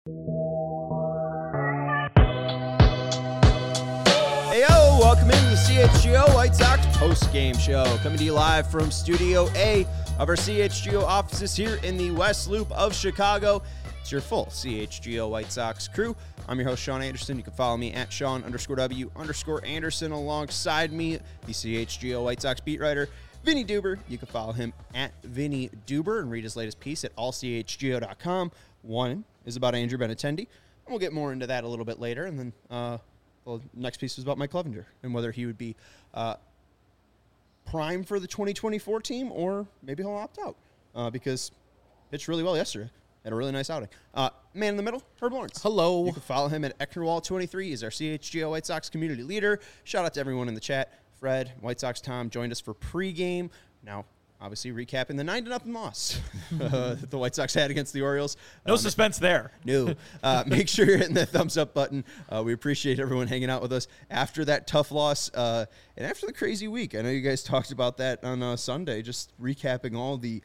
Hey, yo, welcome into the CHGO White Sox post-game show. Coming to you live from Studio A of our CHGO offices here in the West Loop of Chicago. It's your full CHGO White Sox crew. I'm your host, Sean Anderson. You can follow me at Sean_W_Anderson. Alongside me, the CHGO White Sox beat writer, Vinny Duber. You can follow him at Vinny Duber and read his latest piece at allchgo.com. One is about Andrew Benintendi, and we'll get more into that a little bit later. And then the next piece was about Mike Clevenger and whether he would be prime for the 2024 team or maybe he'll opt out because pitched really well yesterday. Had a really nice outing. Man in the middle, Herb Lawrence. Hello. You can follow him at Ecknerwall23. He's our CHGO White Sox community leader. Shout out to everyone in the chat. Fred, White Sox Tom joined us for pregame. Now, obviously, recapping the 9-0 loss that the White Sox had against the Orioles. No suspense there. No. Make sure you're hitting the thumbs up button. We appreciate everyone hanging out with us after that tough loss and after the crazy week. I know you guys talked about that on Sunday, just recapping all the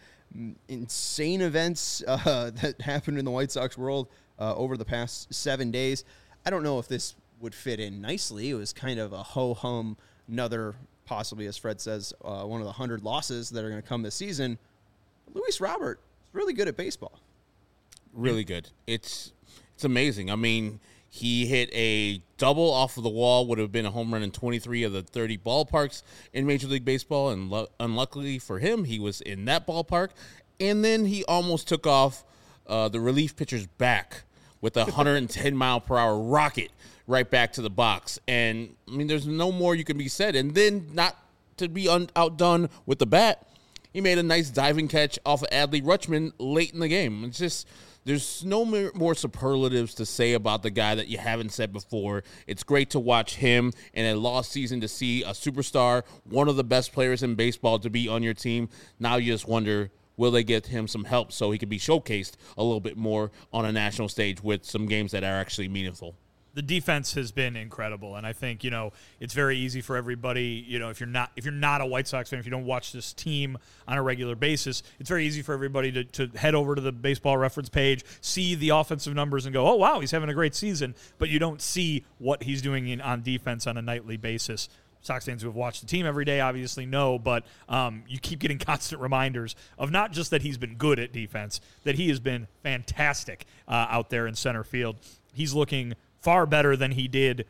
insane events that happened in the White Sox world over the past 7 days. I don't know if this would fit in nicely. It was kind of a ho-hum, another possibly, as Fred says, one of the 100 losses that are going to come this season. Luis Robert is really good at baseball. Really good. It's amazing. I mean, he hit a double off of the wall, would have been a home run in 23 of the 30 ballparks in Major League Baseball, and unluckily for him, he was in that ballpark. And then he almost took off the relief pitcher's back with a 110-mile-per-hour rocket right back to the box. And, I mean, there's no more you can be said. And then, not to be outdone with the bat, he made a nice diving catch off of Adley Rutschman late in the game. It's just, there's no more superlatives to say about the guy that you haven't said before. It's great to watch him in a lost season, to see a superstar, one of the best players in baseball, to be on your team. Now you just wonder, will they get him some help so he can be showcased a little bit more on a national stage with some games that are actually meaningful? The defense has been incredible, and I think, it's very easy for everybody, if you're not a White Sox fan, if you don't watch this team on a regular basis, it's very easy for everybody to head over to the Baseball Reference page, see the offensive numbers, and go, oh, wow, he's having a great season, but you don't see what he's doing on defense on a nightly basis. Sox fans who have watched the team every day obviously know, but you keep getting constant reminders of not just that he's been good at defense, that he has been fantastic out there in center field. He's looking far better than he did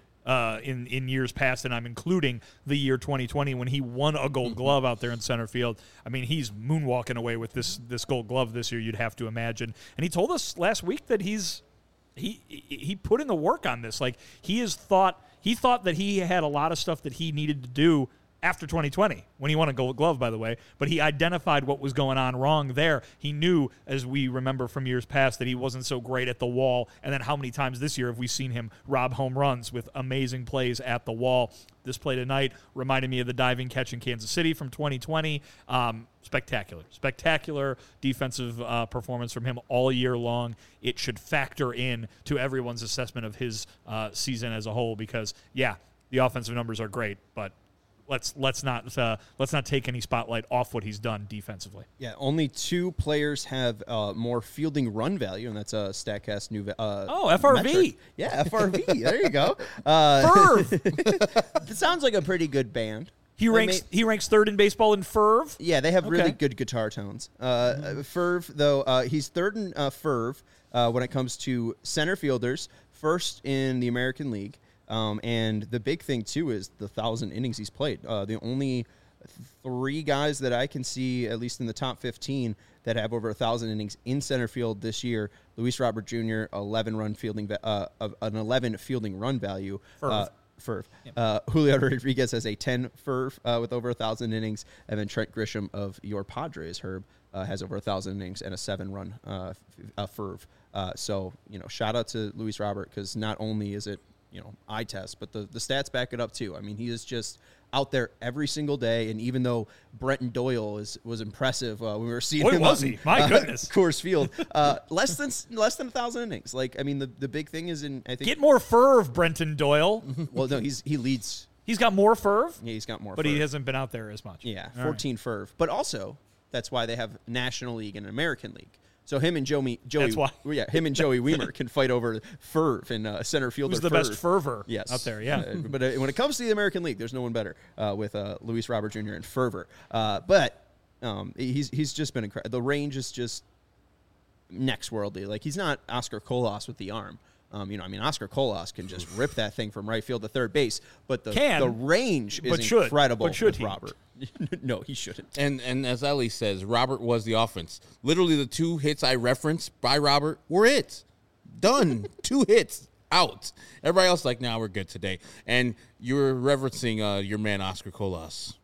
in years past, and I'm including the year 2020 when he won a Gold Glove out there in center field. I mean, he's moonwalking away with this Gold Glove this year, you'd have to imagine. And he told us last week that he put in the work on this. Like, he thought that he had a lot of stuff that he needed to do after 2020, when he won a Gold Glove, by the way, but he identified what was going on wrong there. He knew, as we remember from years past, that he wasn't so great at the wall, and then how many times this year have we seen him rob home runs with amazing plays at the wall? This play tonight reminded me of the diving catch in Kansas City from 2020. Spectacular defensive performance from him all year long. It should factor in to everyone's assessment of his season as a whole because, yeah, the offensive numbers are great, but let's not take any spotlight off what he's done defensively. Yeah, only two players have more fielding run value, and that's a StatCast new FRV. Metric. Yeah, FRV. There you go. Ferv. It sounds like a pretty good band. He ranks third in baseball in Ferv. Yeah, they have really good guitar tones. Ferv, though, he's third in Ferv when it comes to center fielders, first in the American League. And the big thing, too, is the 1,000 innings he's played. The only three guys that I can see, at least in the top 15, that have over 1,000 innings in center field this year, Luis Robert Jr., 11 fielding run value. Ferv. Yep. Julio Rodriguez has a 10 Ferv with over 1,000 innings, and then Trent Grisham of your Padres, Herb, has over 1,000 innings and a 7-run Ferv. So, shout out to Luis Robert, because not only is it eye test, but the stats back it up too. I mean, he is just out there every single day, and even though Brenton Doyle was impressive when we were seeing him was he? My goodness. Coors Field, less than 1,000 innings. Like, I mean, the big thing is get more Ferv, Brenton Doyle. Well, no, he leads. He's got more Ferv. Yeah, he's got more, but Ferv. He hasn't been out there as much. Yeah, All 14 Ferv, but also that's why they have National League and American League. So him and Joey, That's why. him and Joey Weimer can fight over Ferv and center fielder. Who's the best fervor out there? Yeah. But when it comes to the American League, there's no one better with Luis Robert Jr. and fervor. But he's just been incredible. The range is just next worldly. Like, he's not Oscar Colas with the arm. Oscar Colas can just rip that thing from right field to third base, but the range is incredible with Robert. No, he shouldn't. And as Ellie says, Robert was the offense. Literally, the 2 hits I referenced by Robert were it. Done. 2 hits. Out. Everybody else like, we're good today. And you're referencing your man, Oscar Colas.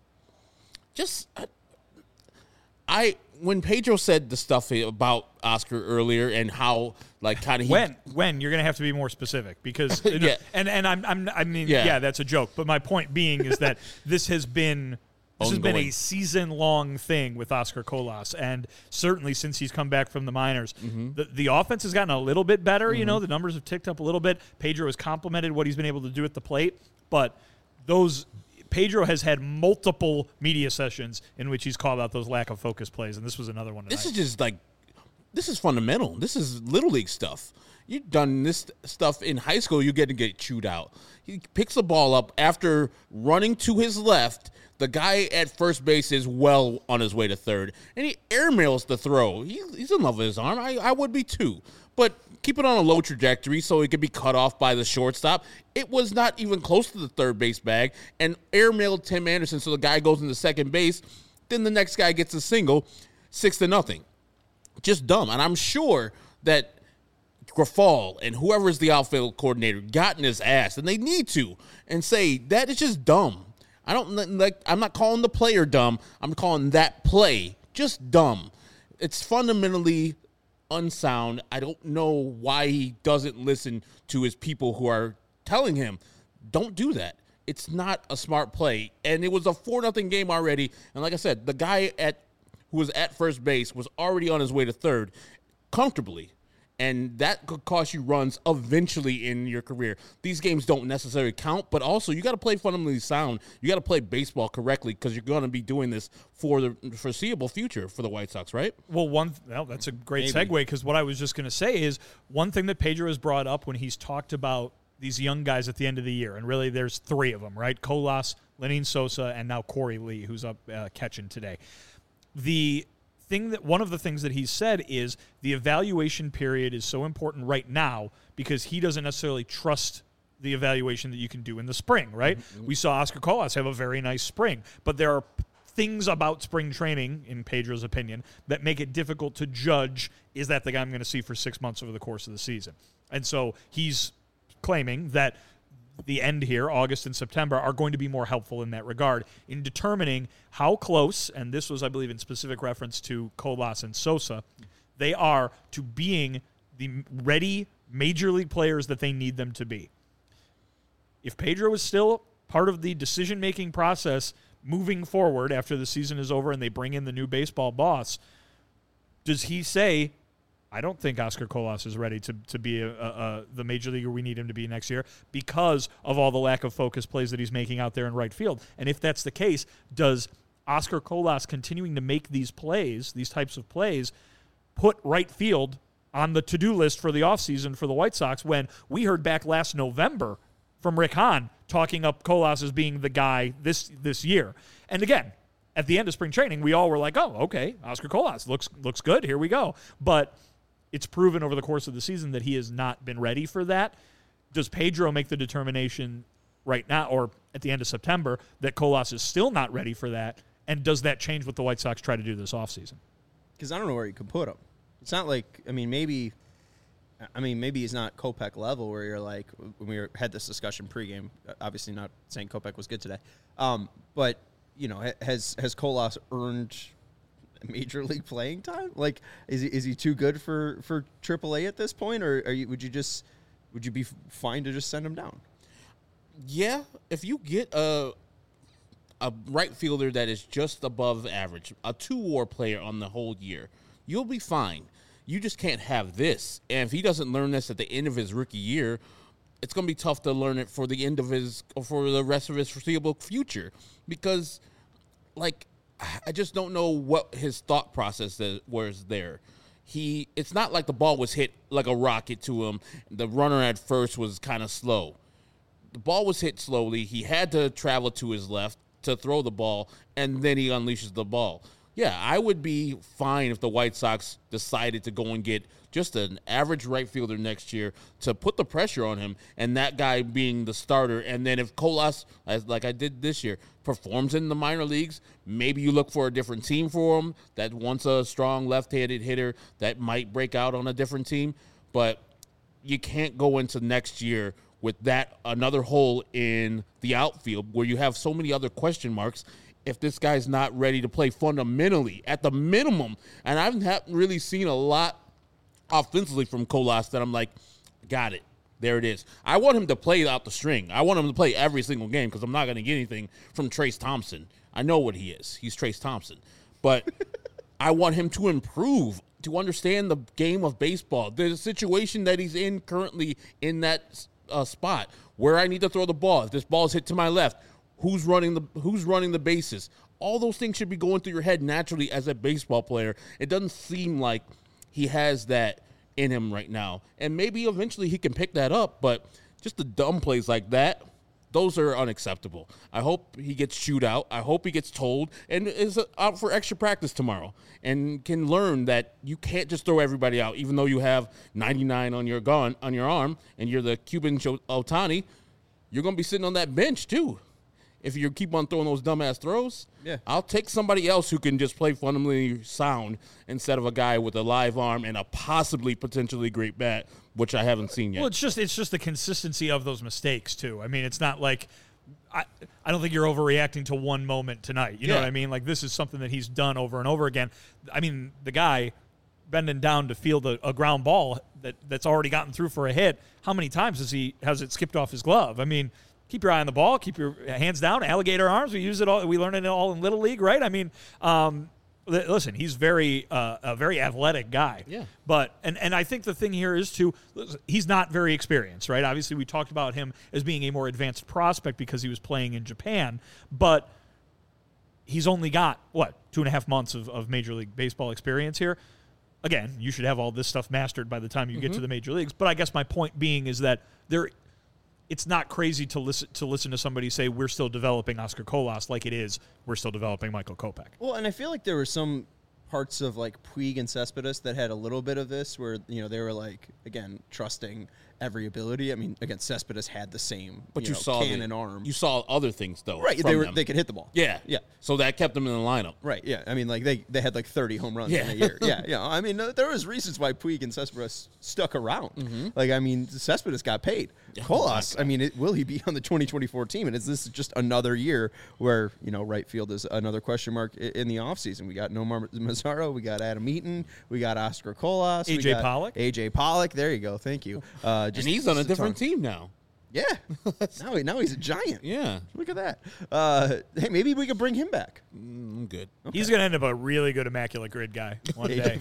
When Pedro said the stuff about Oscar earlier and how kind of when you're gonna have to be more specific because that's a joke, but my point being is that this has been a season-long thing with Oscar Colas, and certainly since he's come back from the minors, the offense has gotten a little bit better. You know, the numbers have ticked up a little bit. Pedro has complimented what he's been able to do at the plate, but Pedro has had multiple media sessions in which he's called out those lack of focus plays, and this was another one tonight. This is fundamental. This is Little League stuff. You've done this stuff in high school, you get chewed out. He picks the ball up after running to his left. The guy at first base is well on his way to third, and he airmails the throw. He's in love with his arm. I would be too. But keep it on a low trajectory so it could be cut off by the shortstop. It was not even close to the third base bag, and airmailed Tim Anderson so the guy goes into second base. Then the next guy gets a single, 6-0. Just dumb. And I'm sure that Grafal and whoever is the outfield coordinator got in his ass, and they need to, and say, that is just dumb. I'm not calling the player dumb. I'm calling that play just dumb. It's fundamentally unsound. I don't know why he doesn't listen to his people who are telling him, don't do that. It's not a smart play. And it was a 4-0 game already. And like I said, the guy who was at first base was already on his way to third comfortably. And that could cost you runs eventually in your career. These games don't necessarily count, but also you got to play fundamentally sound. You got to play baseball correctly because you're going to be doing this for the foreseeable future for the White Sox, right? Well, that's a great segue because what I was just going to say is one thing that Pedro has brought up when he's talked about these young guys at the end of the year, and really there's 3 of them, right? Lenyn Sosa, and now Corey Lee, who's up catching today. One of the things that he said is the evaluation period is so important right now because he doesn't necessarily trust the evaluation that you can do in the spring, right? Mm-hmm. We saw Oscar Colas have a very nice spring, but there are things about spring training, in Pedro's opinion, that make it difficult to judge, is that the guy I'm going to see for 6 months over the course of the season? And so he's claiming that the end here, August and September, are going to be more helpful in that regard in determining how close, and this was, I believe, in specific reference to Colas and Sosa, they are to being the ready major league players that they need them to be. If Pedro is still part of the decision-making process moving forward after the season is over and they bring in the new baseball boss, does he say, I don't think Oscar Colas is ready to be the major leaguer we need him to be next year because of all the lack of focus plays that he's making out there in right field? And if that's the case, does Oscar Colas continuing to make these plays, these types of plays, put right field on the to-do list for the offseason for the White Sox when we heard back last November from Rick Hahn talking up Colas as being the guy this year? And again, at the end of spring training, we all were like, oh, okay, Oscar Colas looks good, here we go. But it's proven over the course of the season that he has not been ready for that. Does Pedro make the determination right now or at the end of September that Colas is still not ready for that? And does that change what the White Sox try to do this offseason? Because I don't know where you could put him. It's not like, maybe he's not Kopech level where you're like, when we had this discussion pregame, obviously not saying Kopech was good today. But, has Colas earned major league playing time? Like, is he too good for AAA at this point, or would you be fine to just send him down? Yeah, if you get a right fielder that is just above average, a 2-WAR player on the whole year, you'll be fine. You just can't have this. And if he doesn't learn this at the end of his rookie year, it's going to be tough to learn it for the rest of his foreseeable future because, I just don't know what his thought process was there. it's not like the ball was hit like a rocket to him. The runner at first was kind of slow. The ball was hit slowly. He had to travel to his left to throw the ball, and then he unleashes the ball. Yeah, I would be fine if the White Sox decided to go and get just an average right fielder next year to put the pressure on him, and that guy being the starter. And then if Colas, like I did this year, performs in the minor leagues, maybe you look for a different team for him that wants a strong left-handed hitter that might break out on a different team. But you can't go into next year with that another hole in the outfield where you have so many other question marks if this guy's not ready to play fundamentally at the minimum. And I haven't really seen a lot offensively from Colas that I'm like, got it. There it is. I want him to play out the string. I want him to play every single game because I'm not going to get anything from Trace Thompson. I know what he is. He's Trace Thompson. But I want him to improve, to understand the game of baseball. The situation that he's in currently in that spot where I need to throw the ball. If this ball is hit to my left, who's running the bases? All those things should be going through your head naturally as a baseball player. It doesn't seem like he has that in him right now. And maybe eventually he can pick that up, but just the dumb plays like that, those are unacceptable. I hope he gets chewed out. I hope he gets told and is out for extra practice tomorrow and can learn that you can't just throw everybody out, even though you have 99 on your arm and you're the Cuban Ohtani. You're going to be sitting on that bench too. If you keep on throwing those dumbass throws, yeah. I'll take somebody else who can just play fundamentally sound instead of a guy with a live arm and a potentially great bat, which I haven't seen yet. Well, it's just the consistency of those mistakes too. I mean, it's not like I don't think you're overreacting to one moment tonight. You know what I mean? Like this is something that he's done over and over again. I mean, the guy bending down to field a ground ball that's already gotten through for a hit. How many times has it skipped off his glove? I mean, keep your eye on the ball, keep your hands down, alligator arms. We use it all. We learn it all in Little League, right? I mean, listen, he's a very athletic guy. Yeah. But and I think the thing here is he's not very experienced, right? Obviously, we talked about him as being a more advanced prospect because he was playing in Japan, but he's only got 2.5 months of Major League Baseball experience here. Again, you should have all this stuff mastered by the time you get to the major leagues. But I guess my point being is that it's not crazy to listen to somebody say we're still developing Oscar Colas like it is we're still developing Michael Kopech. Well, and I feel like there were some parts of like Puig and Cespedes that had a little bit of this where, they were like, again, trusting every ability. I mean, again, Cespedes had the same but you saw cannon arm. You saw other things though. Right, they could hit the ball. Yeah. Yeah. So that kept them in the lineup. Right, yeah. I mean, like they had like 30 home runs in a year. Yeah. I mean, there was reasons why Puig and Cespedes stuck around. Like, I mean, Cespedes got paid. Colas, I mean, will he be on the 2024 team? And is this just another year where, right field is another question mark in the offseason? We got Nomar Mazara, we got Adam Eaton, we got Oscar Colas. AJ Pollock. There you go. Thank you. And he's on a different team now. Yeah. now he's a giant. Yeah. Look at that. Hey, maybe we could bring him back. I'm good. Okay. He's going to end up a really good Immaculate Grid guy one day.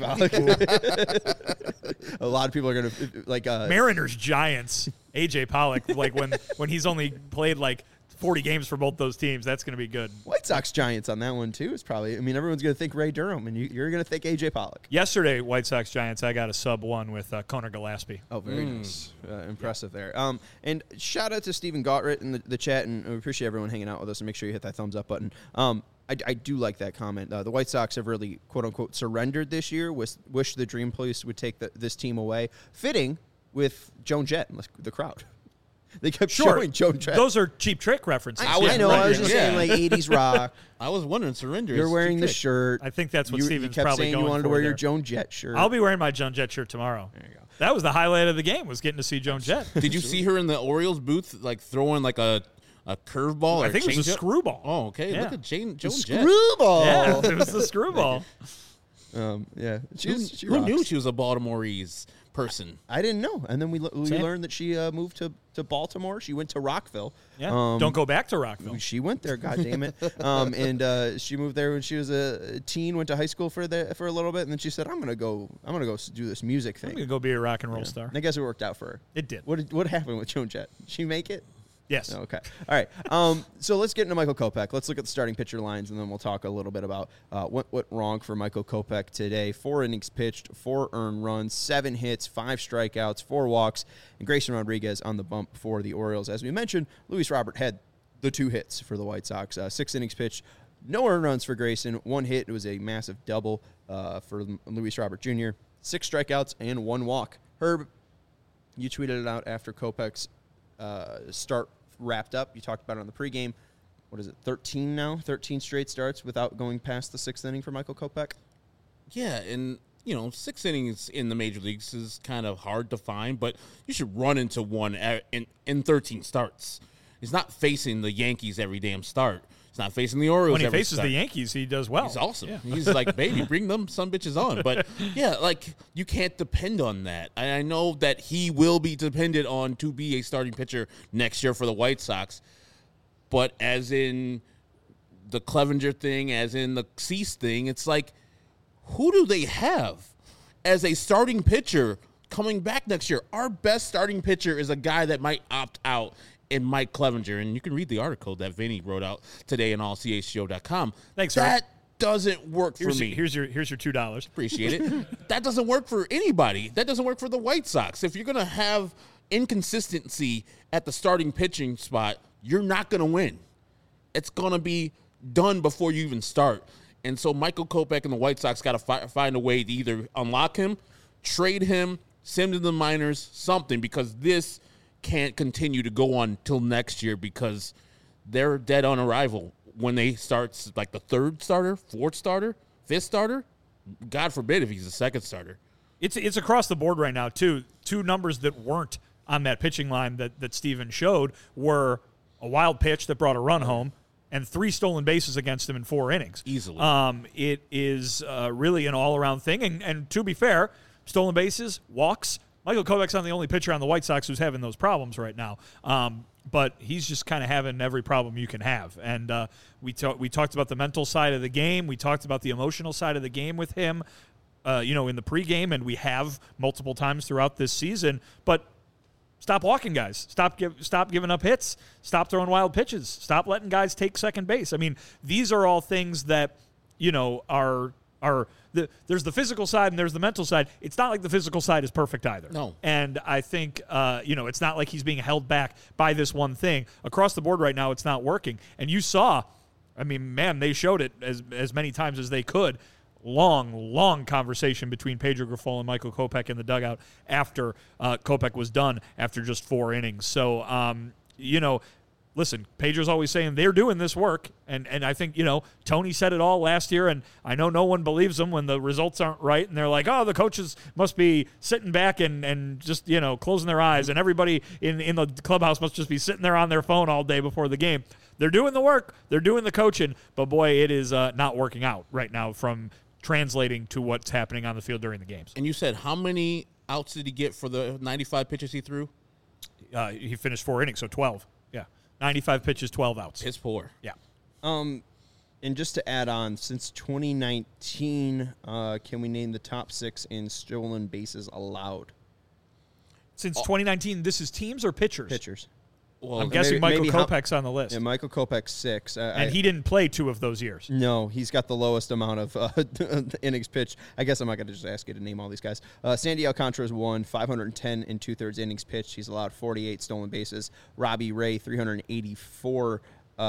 A lot of people are going to like Mariners Giants. AJ Pollock, like when he's only played like 40 games for both those teams, that's going to be good. White Sox Giants on that one too is probably. I mean, everyone's going to think Ray Durham, and you're going to think AJ Pollock. Yesterday, White Sox Giants, I got a sub-1 with Conor Gillespie. Oh, very nice, impressive there. And shout out to Stephen Gottritt in the chat, and we appreciate everyone hanging out with us. And make sure you hit that thumbs up button. I do like that comment. The White Sox have really quote unquote surrendered this year. Wish the dream place would take this team away. Fitting with Joan Jett and the crowd. They kept showing Joan Jett. Those are Cheap Trick references. I know. I was just saying like 80s rock. I was wondering, surrender. You're wearing the shirt. I think that's what Steven's kept probably saying going you wanted for to wear there. your Joan Jett shirt. I'll be wearing my Joan Jett shirt tomorrow. There you go. That was the highlight of the game, was getting to see Joan Jett. Did you see her in the Orioles booth, like throwing like a curveball? I think it was a screwball. Oh, okay. Yeah. Look at Joan Jett. Screwball. Yeah, it was the screwball. Yeah. Who knew she was a Baltimoreese person? I didn't know. And then we learned that she moved to Baltimore. She went to Rockville. Yeah. Don't go back to Rockville. She went there, God damn it. And she moved there when she was a teen, went to high school for a little bit, and then she said, I'm gonna go do this music thing. I'm going to go be a rock and roll star. And I guess it worked out for her. It did. What happened with Joan Jett? Did she make it? Yes. Okay. All right. So let's get into Michael Kopech. Let's look at the starting pitcher lines, and then we'll talk a little bit about what went wrong for Michael Kopech today. 4 innings pitched, 4 earned runs, 7 hits, 5 strikeouts, 4 walks, and Grayson Rodriguez on the bump for the Orioles. As we mentioned, Luis Robert had the 2 hits for the White Sox. 6 innings pitched, no earned runs for Grayson, 1 hit. It was a massive double for Luis Robert Jr., 6 strikeouts, and 1 walk. Herb, you tweeted it out after Kopech's start wrapped up. You talked about it on the pregame. What is it, 13 now? 13 straight starts without going past the 6th inning for Michael Kopech? Yeah, and, 6 innings in the major leagues is kind of hard to find, but you should run into one in 13 starts. He's not facing the Yankees every damn start. He's not facing the Orioles When he every faces start. the Yankees, he does well. He's awesome. Yeah. He's like, baby, bring them some bitches on. But, yeah, like, you can't depend on that. I know that he will be dependent on to be a starting pitcher next year for the White Sox. But as in the Clevenger thing, as in the Cease thing, it's like, who do they have as a starting pitcher coming back next year? Our best starting pitcher is a guy that might opt out in Mike Clevenger. And you can read the article that Vinny wrote out today on allchgo.com. Thanks, Rob. That doesn't work for me. Here's your $2. Appreciate it. That doesn't work for anybody. That doesn't work for the White Sox. If you're going to have inconsistency at the starting pitching spot, you're not going to win. It's going to be done before you even start. And so Michael Kopech and the White Sox got to find a way to either unlock him, trade him, send him to the minors, something, because this can't continue to go on till next year because they're dead on arrival when they start, like the 3rd starter, 4th starter, 5th starter. God forbid if he's the 2nd starter. It's across the board right now, too. 2 numbers that weren't on that pitching line that Steven showed were a wild pitch that brought a run home and 3 stolen bases against him in 4 innings. Easily. It is really an all-around thing. And to be fair, stolen bases, walks, Michael Kopech's not the only pitcher on the White Sox who's having those problems right now. But he's just kind of having every problem you can have. And we talked about the mental side of the game. We talked about the emotional side of the game with him, in the pregame, and we have multiple times throughout this season. But stop walking guys. Stop giving up hits. Stop throwing wild pitches. Stop letting guys take second base. I mean, these are all things that, there's the physical side and there's the mental side. It's not like the physical side is perfect either. No. And I think, it's not like he's being held back by this one thing. Across the board right now, it's not working. And you saw, they showed it as many times as they could. Long conversation between Pedro Grifol and Michael Kopech in the dugout after Kopech was done after just 4 innings. So, listen, Pedro's always saying they're doing this work, and I think, Tony said it all last year, and I know no one believes them when the results aren't right, and they're like, oh, the coaches must be sitting back and just, closing their eyes, and everybody in the clubhouse must just be sitting there on their phone all day before the game. They're doing the work, they're doing the coaching, but boy, it is not working out right now from translating to what's happening on the field during the games. And you said how many outs did he get for the 95 pitches he threw? He finished 4 innings, so 12. Yeah. 95 pitches, 12 outs. Piss poor. Yeah. And just to add on, since 2019, can we name the top 6 in stolen bases allowed? Since 2019, this is teams or pitchers? Pitchers. Well, I'm guessing Michael maybe Kopech's on the list. Yeah, Michael Kopech's 6. And he didn't play 2 of those years. No, he's got the lowest amount of innings pitched. I guess I'm not going to just ask you to name all these guys. Sandy Alcantara's 510 and 2/3 innings pitched. He's allowed 48 stolen bases. Robbie Ray, 384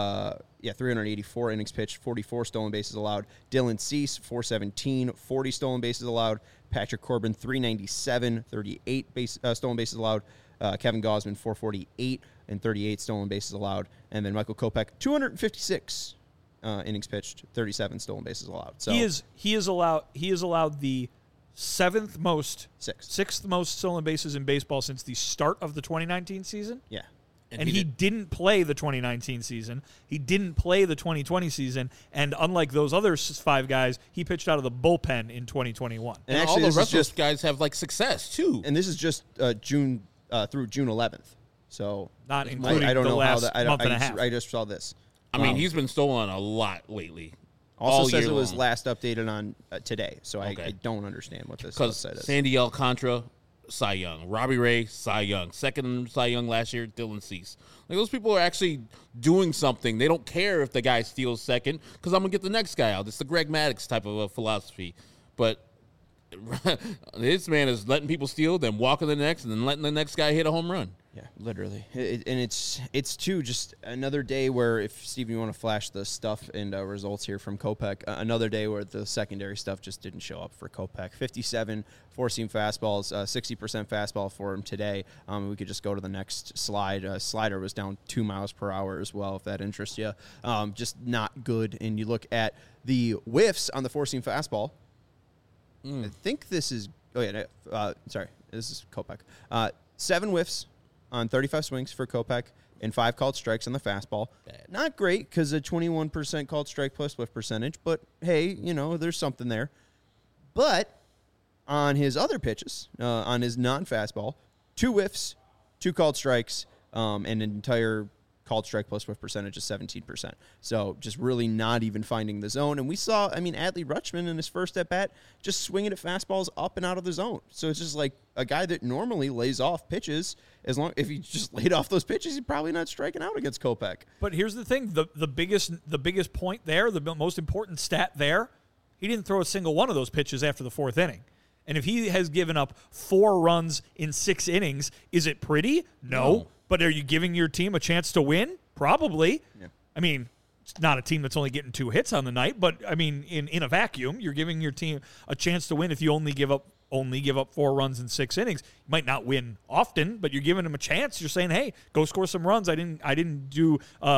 innings pitched, 44 stolen bases allowed. Dylan Cease, 417, 40 stolen bases allowed. Patrick Corbin, 397, 38 stolen bases allowed. Kevin Gausman, 448 and 38 stolen bases allowed. And then Michael Kopech, 256 innings pitched, 37 stolen bases allowed. So he is allowed the sixth most stolen bases in baseball since the start of the 2019 season. Yeah. And he didn't play the 2019 season. He didn't play the 2020 season. And unlike those other 5 guys, he pitched out of the bullpen in 2021. And actually, all the rest of those guys have success too. And this is just June through June 11th. So not including I don't the know last how that, month and a half. I just saw this. I mean, he's been stolen a lot lately. Also says it was long. last updated on today, so I don't understand what this because website is. Sandy Alcantara Cy Young. Robbie Ray, Cy Young. Second Cy Young last year, Dylan Cease. Like, those people are actually doing something. They don't care if the guy steals second because I'm going to get the next guy out. It's the Greg Maddux type of a philosophy. But this man is letting people steal, then walking the next, and then letting the next guy hit a home run. Yeah, literally. And it's too just another day where, if Steven, you want to flash the stuff and results here from Kopech, another day where the secondary stuff just didn't show up for Kopech. 57 four-seam fastballs, 60% fastball for him today. We could just go to the next slide. Slider was down 2 miles per hour as well, if that interests you. Just not good. And you look at the whiffs on the four-seam fastball. I think this is – sorry. This is Kopech. 7 whiffs on 35 swings for Kopech and 5 called strikes on the fastball. Bad. Not great because a 21% called strike plus whiff percentage, but hey, there's something there. But on his other pitches, on his non-fastball, 2 whiffs, 2 called strikes, and an entire called strike plus whiff percentage is 17%. So just really not even finding the zone. And we saw, Adley Rutschman in his first at-bat just swinging at fastballs up and out of the zone. So it's just like a guy that normally lays off pitches. If he just laid off those pitches, he's probably not striking out against Kopech. But here's the thing. The biggest point there, the most important stat there, he didn't throw a single one of those pitches after the 4th inning. And if he has given up 4 runs in 6 innings, is it pretty? No. But are you giving your team a chance to win? Probably. Yeah. It's not a team that's only getting 2 hits on the night, but in a vacuum, you're giving your team a chance to win if you only give up 4 runs in 6 innings. You might not win often, but you're giving them a chance. You're saying, "Hey, go score some runs." I didn't do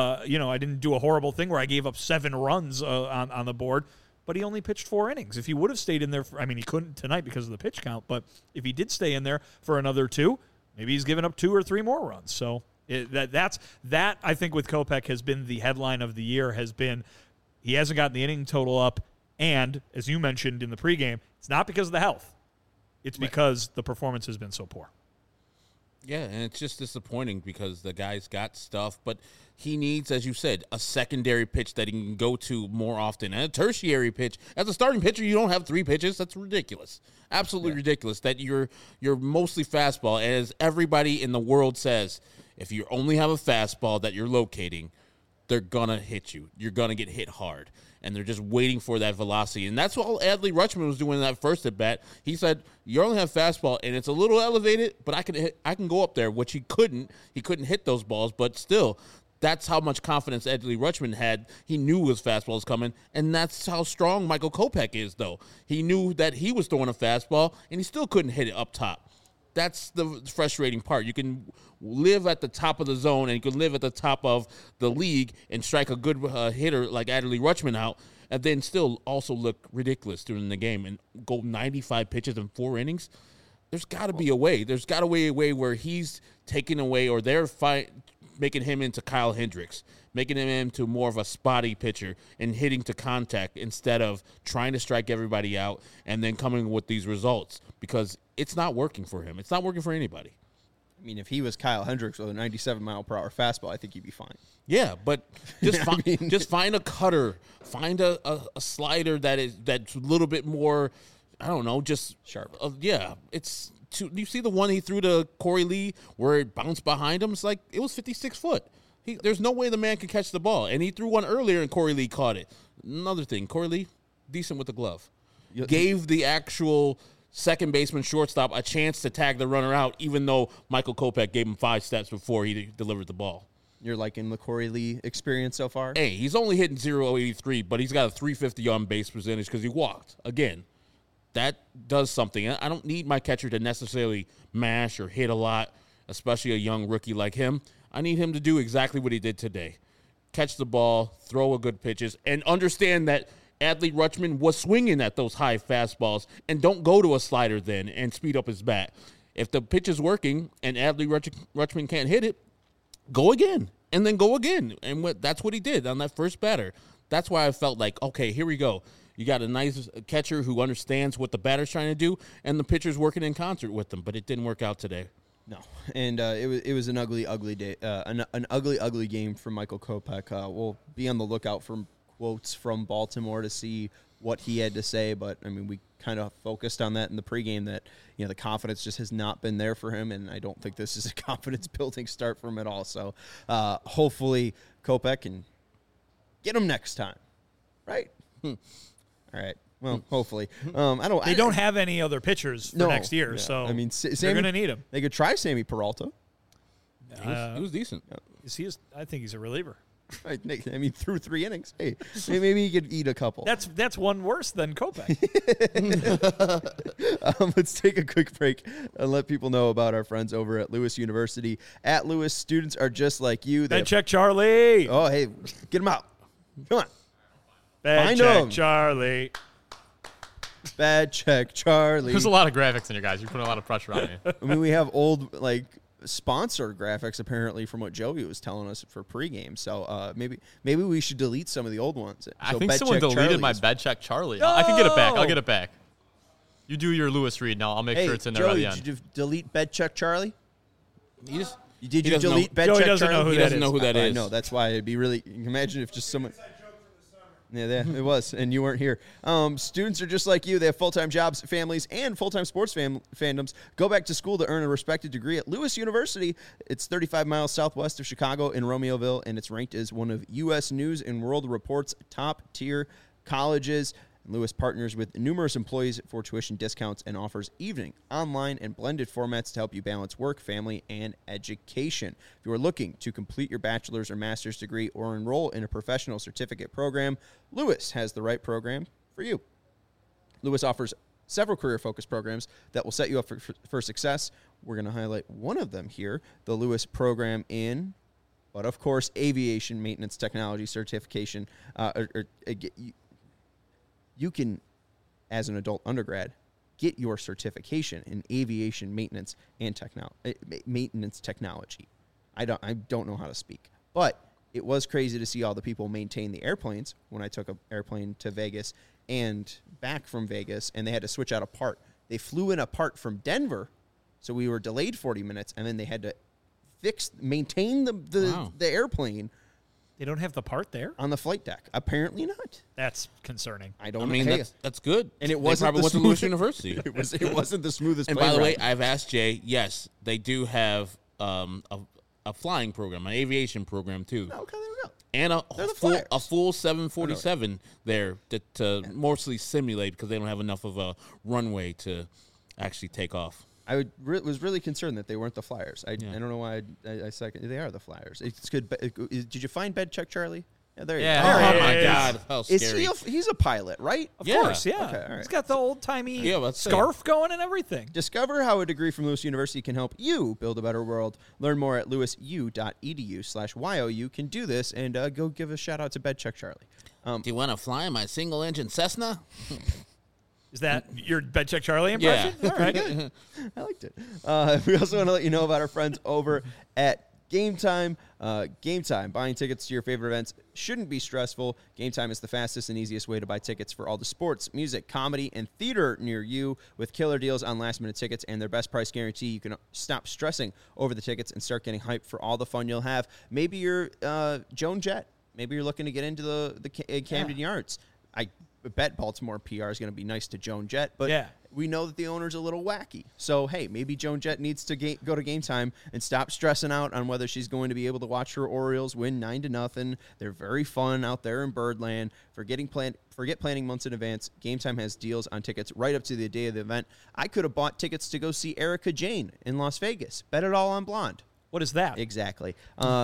a horrible thing where I gave up 7 runs on the board. But he only pitched 4 innings. If he would have stayed in there, he couldn't tonight because of the pitch count. But if he did stay in there for another 2, maybe he's given up 2 or 3 more runs. So that I think with Kopech has been the headline of the year. Has been he hasn't gotten the inning total up, and as you mentioned in the pregame, it's not because of the health. It's because the performance has been so poor. Yeah, and it's just disappointing because the guy's got stuff, but he needs, as you said, a secondary pitch that he can go to more often, and a tertiary pitch. As a starting pitcher, you don't have 3 pitches. That's ridiculous. Absolutely ridiculous that you're mostly fastball. As everybody in the world says, if you only have a fastball that you're locating, they're going to hit you. You're going to get hit hard. And they're just waiting for that velocity. And that's what Adley Rutschman was doing in that first at-bat. He said, you only have fastball, and it's a little elevated, but I can go up there, which he couldn't. He couldn't hit those balls, but still, that's how much confidence Adley Rutschman had. He knew his fastball was coming, and that's how strong Michael Kopech is, though. He knew that he was throwing a fastball, and he still couldn't hit it up top. That's the frustrating part. You can live at the top of the zone and you can live at the top of the league and strike a good hitter like Adley Rutschman out and then still also look ridiculous during the game and go 95 pitches in 4 innings. There's got to be a way. There's got to be a way where he's taking away or they're making him into Kyle Hendricks, making him into more of a spotty pitcher and hitting to contact instead of trying to strike everybody out and then coming with these results because it's not working for him. It's not working for anybody. If he was Kyle Hendricks with a 97-mile-per-hour fastball, I think he'd be fine. Yeah, but just find a cutter, find a slider that's a little bit more, I don't know, just sharp. You see the one he threw to Corey Lee where it bounced behind him? It's like it was 56 foot. There's no way the man could catch the ball. And he threw one earlier and Corey Lee caught it. Another thing, Corey Lee, decent with the glove. Gave the actual second baseman, shortstop, a chance to tag the runner out, even though Michael Kopech gave him 5 steps before he delivered the ball. You're liking the Corey Lee experience so far? Hey, he's only hitting .083, but he's got a .350 on base percentage because he walked. Again, that does something. I don't need my catcher to necessarily mash or hit a lot, especially a young rookie like him. I need him to do exactly what he did today. Catch the ball, throw a good pitches, and understand that Adley Rutschman was swinging at those high fastballs, and don't go to a slider then and speed up his bat. If the pitch is working and Adley Rutschman can't hit it, go again, and then go again. And that's what he did on that first batter. That's why I felt like, okay, here we go. You got a nice catcher who understands what the batter's trying to do, and the pitcher's working in concert with them, but it didn't work out today. No, and it was an ugly day, an ugly game for Michael Kopech. We'll be on the lookout for quotes from Baltimore to see what he had to say, but I mean, we kind of focused on that in the pregame that, the confidence just has not been there for him, and I don't think this is a confidence-building start for him at all. So hopefully Kopech can get him next time, right? All right. Well, hopefully. They don't have any other pitchers for next year, so I mean, they're going to need him. They could try Sammy Peralta. He was decent. I think he's a reliever. I mean, through 3 innings. Hey, maybe he could eat a couple. That's one worse than Kopech. Let's take a quick break and let people know about our friends over at Lewis University. At Lewis, students are just like you. Bad check, Charlie. Oh, hey, get them out. Come on. Bad Find check, 'em. Charlie. Bad check, Charlie. There's a lot of graphics in here, guys. You're putting a lot of pressure on me. I mean, we have old, sponsor graphics apparently from what Joey was telling us for pregame. So maybe we should delete some of the old ones. I So think Bet someone Check deleted my Charlie's- bed check Charlie. I can get it back. I'll get it back. You do your Lewis read now. I'll make Hey, sure it's in there Joey, by the end. did you delete Bet Check Charlie? He just Did he you doesn't know- delete Bet Joey Check doesn't Charlie? know who He that doesn't is. know who that I is. know. That's why it'd be really. Imagine if just someone. Yeah, it was, and you weren't here. Students are just like you. They have full-time jobs, families, and full-time sports fandoms. Go back to school to earn a respected degree at Lewis University. It's 35 miles southwest of Chicago in Romeoville, and it's ranked as one of U.S. News and World Report's top-tier colleges. Lewis partners with numerous employees for tuition discounts and offers evening, online, and blended formats to help you balance work, family, and education. If you are looking to complete your bachelor's or master's degree or enroll in a professional certificate program, Lewis has the right program for you. Lewis offers several career-focused programs that will set you up for success. We're going to highlight one of them here, the Lewis program in, but of course, aviation maintenance technology certification, you can, as an adult undergrad, get your certification in aviation maintenance and maintenance technology. I don't know how to speak, but it was crazy to see all the people maintain the airplanes when I took an airplane to Vegas and back from Vegas, and they had to switch out a part. They flew in a part from Denver, so we were delayed 40 minutes, and then they had to maintain the airplane. They don't have the part there? On the flight deck. Apparently not. That's concerning. I don't I know. mean, Hey, that's good. and it They wasn't probably the went to Lewis smooth- University. It wasn't the smoothest And plane by the way, ride. I've asked Jay. Yes, they do have a flying program, an aviation program too, Okay, there we go. and They're the a Flyers. full 747 there to mostly simulate because they don't have enough of a runway to actually take off. I was really concerned that they weren't the Flyers. I don't know why I second. They are the Flyers. It's good. Did you find Bed Check Charlie? Yeah, there you Yeah. go. There Oh he my is. God, how Is scary! he's a pilot, right? Of Yeah. course, yeah. Okay, all right. He's got the old-timey Yeah, let's say. scarf going and everything. Discover how a degree from Lewis University can help you build a better world. Learn more at lewisu.edu/YOU. Can do this, and go give a shout out to Bed Check Charlie. Do you want to fly in my single-engine Cessna? Is that your Bed Check Charlie impression? Yeah. All right, good. I liked it. We also want to let you know about our friends over at Game Time. Game Time. Buying tickets to your favorite events shouldn't be stressful. Game Time is the fastest and easiest way to buy tickets for all the sports, music, comedy, and theater near you. With killer deals on last-minute tickets and their best price guarantee, you can stop stressing over the tickets and start getting hyped for all the fun you'll have. Maybe you're Joan Jett. Maybe you're looking to get into the Camden Yards. I bet Baltimore PR is going to be nice to Joan Jett, but Yeah. we know that the owner's a little wacky. So, hey, maybe Joan Jett needs to go to Game Time and stop stressing out on whether she's going to be able to watch her Orioles win 9-0. They're very fun out there in Birdland. Forget planning months in advance. Game Time has deals on tickets right up to the day of the event. I could have bought tickets to go see Erica Jane in Las Vegas. Bet it all on Blonde. What is that? Exactly.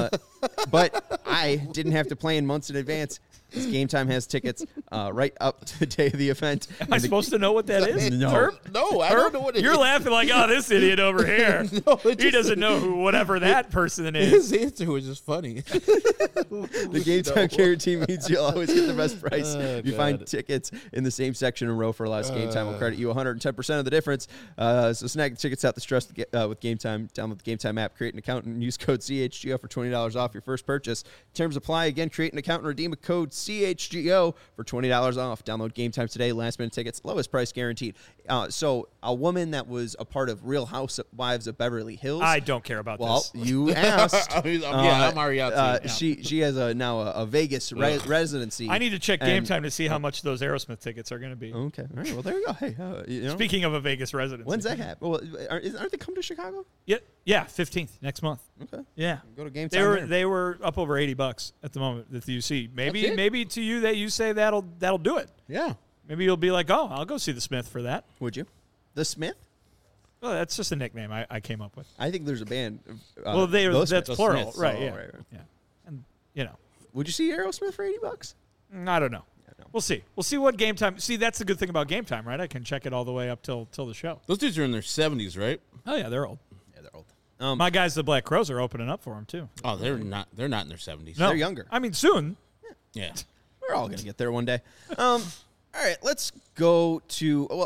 But I didn't have to plan months in advance. This Game Time has tickets right up to the day of the event. Am I supposed to know what that is? No. Herb? No, I don't know what it You're is. laughing like, oh, this idiot over here. He doesn't know who whatever that person is. His answer was just funny. The Game Time guarantee means you'll always get the best price. Oh, You find God. tickets in the same section and row for less. Game Time will credit you 110% of the difference. So snag the tickets out the stress with Game Time. Download the Game Time app, create an account, and use code CHGO for $20 off your first purchase. Terms apply. Again, create an account and redeem a code CHGO for $20 off. Download Game Time today. Last minute tickets, lowest price guaranteed. So a woman that was a part of Real Housewives of Beverly Hills. I don't care about Well, this. you asked. I'm already out. She has now a Vegas residency. I need to check Game and- Time to see how much those Aerosmith tickets are going to be. Okay, all right. Well, there you go. Hey, Speaking of a Vegas residency. when's that happen? Well, aren't they coming to Chicago? Yeah, 15th next month. Okay, Yeah. go to Game They Time. were there. they were up over $80 at the moment that you see. That's it? Maybe to you that you say that'll do it. Yeah. Maybe you'll be like, oh, I'll go see the Smith for that. Would you? The Smith? Well, that's just a nickname I came up with. I think there's a band. Well, those that's Smiths. plural, Smiths. right? Oh, Yeah, right. yeah. And you know, Would you see Aerosmith for $80? I don't know. no. We'll see. We'll see what Game Time. See, that's the good thing about Game Time, right? I can check it all the way up till the show. Those dudes are in their 70s, right? Oh yeah, they're old. Yeah, they're old. My guys, the Black Crows, are opening up for them too. Oh, they're not in their 70s. No, They're younger. I mean, soon. Yeah. We're all gonna get there one day. All right, let's go to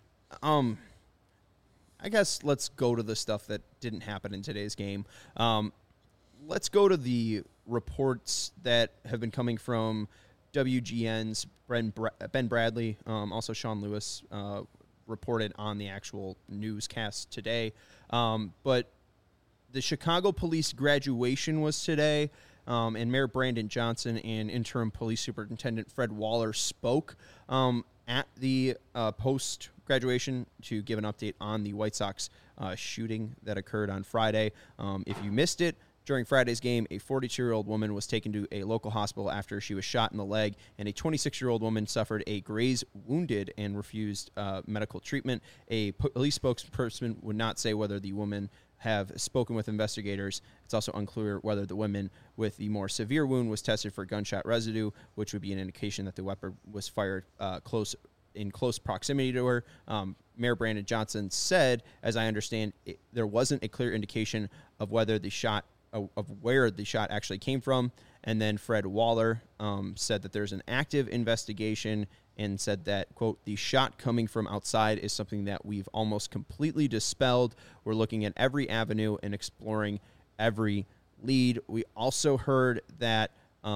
I guess let's go to the stuff that didn't happen in today's game. Let's go to the reports that have been coming from WGN's Ben Bradley, also Sean Lewis reported on the actual newscast today. But the Chicago police graduation was today. And Mayor Brandon Johnson and interim police superintendent Fred Waller spoke at the post-graduation to give an update on the White Sox shooting that occurred on Friday. If you missed it, during Friday's game, a 42-year-old woman was taken to a local hospital after she was shot in the leg, and a 26-year-old woman suffered a graze wounded and refused medical treatment. A police spokesperson would not say whether the woman have spoken with investigators. It's also unclear whether the woman with the more severe wound was tested for gunshot residue, which would be an indication that the weapon was fired in close proximity to her. Mayor Brandon Johnson said, as I understand, there wasn't a clear indication of whether the shot of where the shot actually came from. And then Fred Waller said that there's an active investigation and said that, quote, the shot coming from outside is something that we've almost completely dispelled. We're looking at every avenue and exploring every lead. We also heard that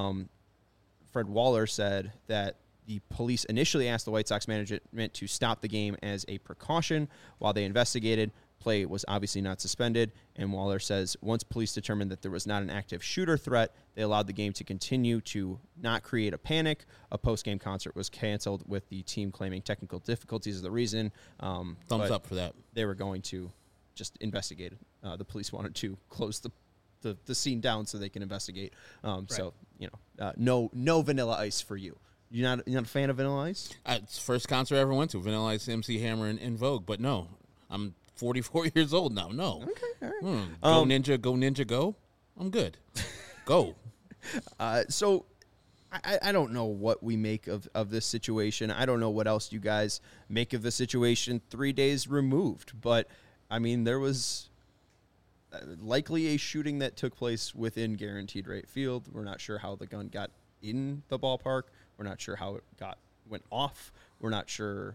Fred Waller said that the police initially asked the White Sox management to stop the game as a precaution while they investigated. Play was obviously not suspended, and Waller says once police determined that there was not an active shooter threat, they allowed the game to continue to not create a panic. A post-game concert was canceled with the team claiming technical difficulties as the reason. Thumbs up for that. They were going to just investigate it. The police wanted to close the scene down so they can investigate. So, no Vanilla Ice for you. You're not a fan of Vanilla Ice? It's the first concert I ever went to, Vanilla Ice, MC Hammer, and In Vogue. But no, I'm 44 years old now. No. Okay, all right. Go Ninja, go. I'm good. Go. So I don't know what we make of this situation. I don't know what else you guys make of the situation 3 days removed. But, I mean, there was likely a shooting that took place within Guaranteed Rate Field. We're not sure how the gun got in the ballpark. We're not sure how it went off. We're not sure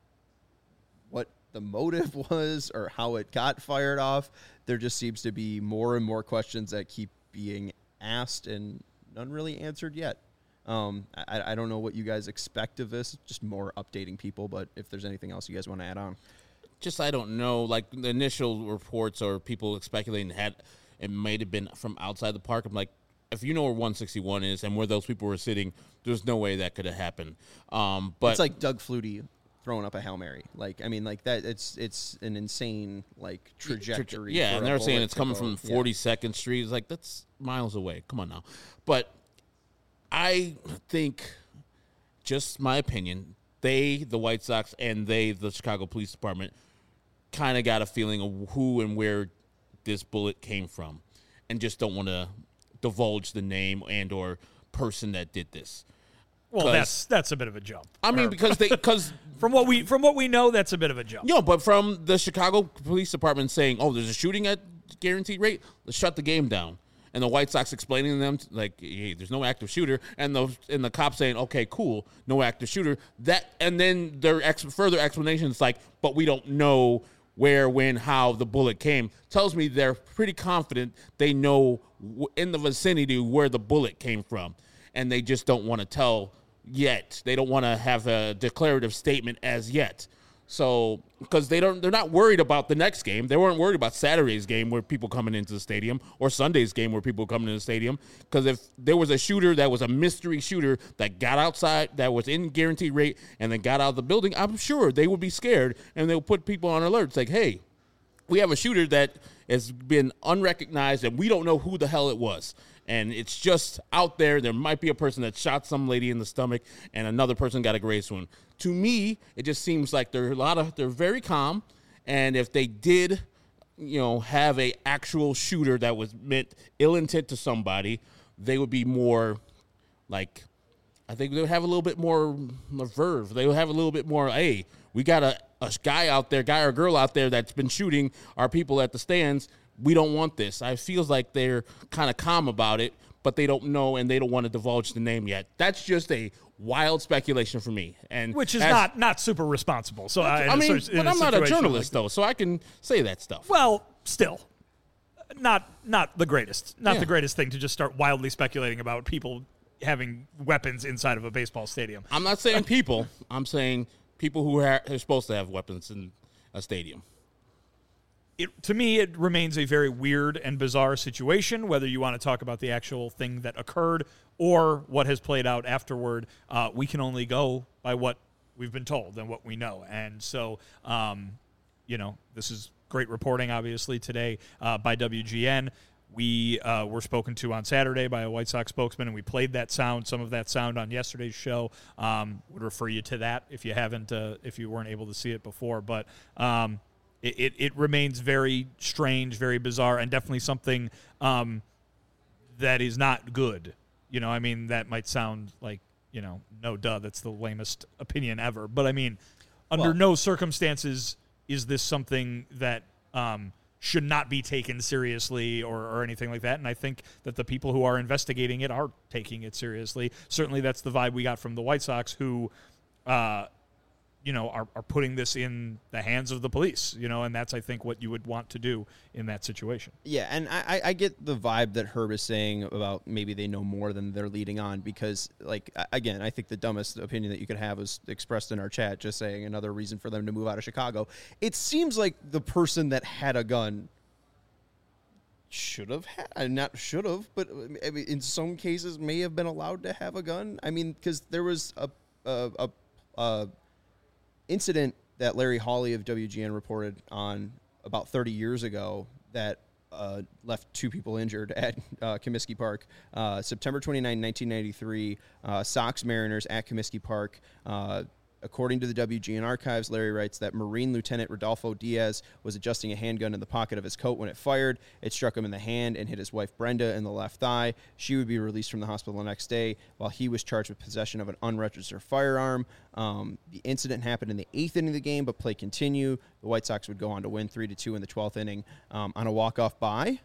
what the motive was or how it got fired off. There just seems to be more and more questions that keep being asked and none really answered yet. I don't know what you guys expect of this. Just more updating people, but if there's anything else you guys want to add on. Just, I don't know, like the initial reports or people speculating it might have been from outside the park. I'm like, if you know where 161 is and where those people were sitting, there's no way that could have happened. But it's like Doug Flutie throwing up a Hail Mary. Like, I mean, like that, it's an insane, like, trajectory. Yeah, for and a they're saying bullet it's to coming go. from Yeah. 42nd Street. It's like, that's miles away. Come on now. But I think, just my opinion, the White Sox, and the Chicago Police Department, kind of got a feeling of who and where this bullet came from and just don't want to divulge the name and or person that did this. Well, that's a bit of a jump. I mean, because from what we know, that's a bit of a jump. but from the Chicago Police Department saying, "Oh, there's a shooting at Guaranteed Rate. Let's shut the game down," and the White Sox explaining to them like, "Hey, there's no active shooter," and the cops saying, "Okay, cool, no active shooter." And then their further explanations like, "But we don't know where, when, how the bullet came," tells me they're pretty confident they know in the vicinity where the bullet came from, and they just don't want to tell yet. They don't want to have a declarative statement as yet. So, because they're not worried about the next game. They weren't worried about Saturday's game where people coming into the stadium or Sunday's game where people coming into the stadium. Because if there was a shooter that was a mystery shooter that got outside, that was in guaranteed rate, and then got out of the building, I'm sure they would be scared and they'll put people on alert. It's like, hey, we have a shooter that has been unrecognized and we don't know who the hell it was. And it's just out there. There might be a person that shot some lady in the stomach and another person got a grave wound. To me, it just seems like they're very calm. And if they did, have a actual shooter that was meant ill intent to somebody, they would be more like, I think they would have a little bit more verve. They would have a little bit more, hey, we got a guy or girl out there that's been shooting our people at the stands. We don't want this. I feels like they're kind of calm about it, but they don't know and they don't want to divulge the name yet. That's just a wild speculation for me, and which is not super responsible. So but I'm not a journalist though, so I can say that stuff. Well, still, not the greatest, the greatest thing to just start wildly speculating about people having weapons inside of a baseball stadium. I'm not saying people. I'm saying people who are supposed to have weapons in a stadium. To me, it remains a very weird and bizarre situation, whether you want to talk about the actual thing that occurred or what has played out afterward. We can only go by what we've been told and what we know. And so, this is great reporting, obviously, today by WGN. We were spoken to on Saturday by a White Sox spokesman, and we played some of that sound on yesterday's show. Would refer you to that if you weren't able to see it before. But It remains very strange, very bizarre, and definitely something that is not good. That might sound like, no duh, that's the lamest opinion ever. But, under no circumstances is this something that should not be taken seriously or anything like that. And I think that the people who are investigating it are taking it seriously. Certainly that's the vibe we got from the White Sox who are putting this in the hands of the police, and that's, I think, what you would want to do in that situation. Yeah, and I get the vibe that Herb is saying about maybe they know more than they're leading on because, again, I think the dumbest opinion that you could have was expressed in our chat, just saying another reason for them to move out of Chicago. It seems like the person that had a gun but in some cases may have been allowed to have a gun. Because there was a incident that Larry Hawley of WGN reported on about 30 years ago that left two people injured at Comiskey Park. September 29, 1993, Sox Mariners at Comiskey Park. According to the WGN archives, Larry writes that Marine Lieutenant Rodolfo Diaz was adjusting a handgun in the pocket of his coat when it fired. It struck him in the hand and hit his wife Brenda in the left thigh. She would be released from the hospital the next day while he was charged with possession of an unregistered firearm. The incident happened in the 8th inning of the game, but play continued. The White Sox would go on to win 3-2 in the 12th inning on a walk-off by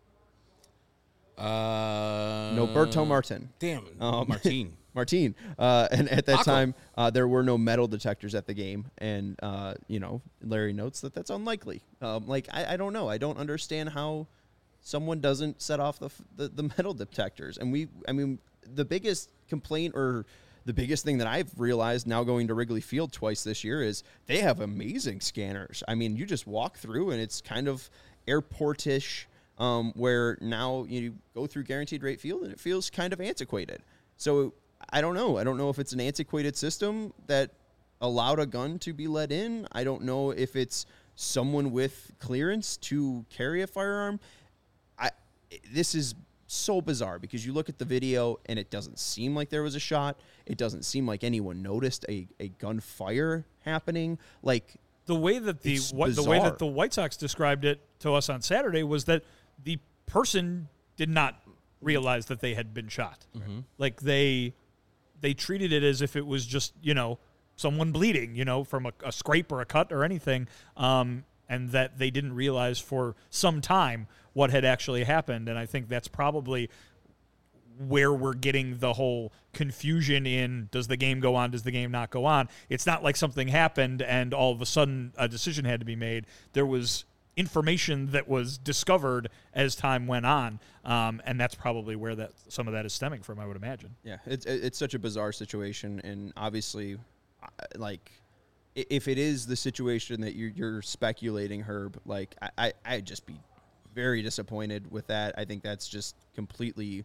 Noberto Martin. Damn, Martin. Martin. And at that time, there were no metal detectors at the game. And, Larry notes that that's unlikely. I don't know. I don't understand how someone doesn't set off the metal detectors. And the biggest complaint or the biggest thing that I've realized now going to Wrigley Field twice this year is they have amazing scanners. You just walk through and it's kind of airport-ish, where now you go through Guaranteed Rate Field and it feels kind of antiquated. So I don't know. I don't know if it's an antiquated system that allowed a gun to be let in. I don't know if it's someone with clearance to carry a firearm. This is so bizarre because you look at the video and it doesn't seem like there was a shot. It doesn't seem like anyone noticed a gunfire happening. The way that the White Sox described it to us on Saturday was that the person did not realize that they had been shot. Mm-hmm. They treated it as if it was just, someone bleeding, from a scrape or a cut or anything, and that they didn't realize for some time what had actually happened. And I think that's probably where we're getting the whole confusion in, does the game go on, does the game not go on? It's not like something happened and all of a sudden a decision had to be made. There was information that was discovered as time went on, and that's probably where some of that is stemming from, I would imagine. Yeah, it's such a bizarre situation, and obviously, if it is the situation that you're speculating, Herb, like I'd just be very disappointed with that. I think that's just completely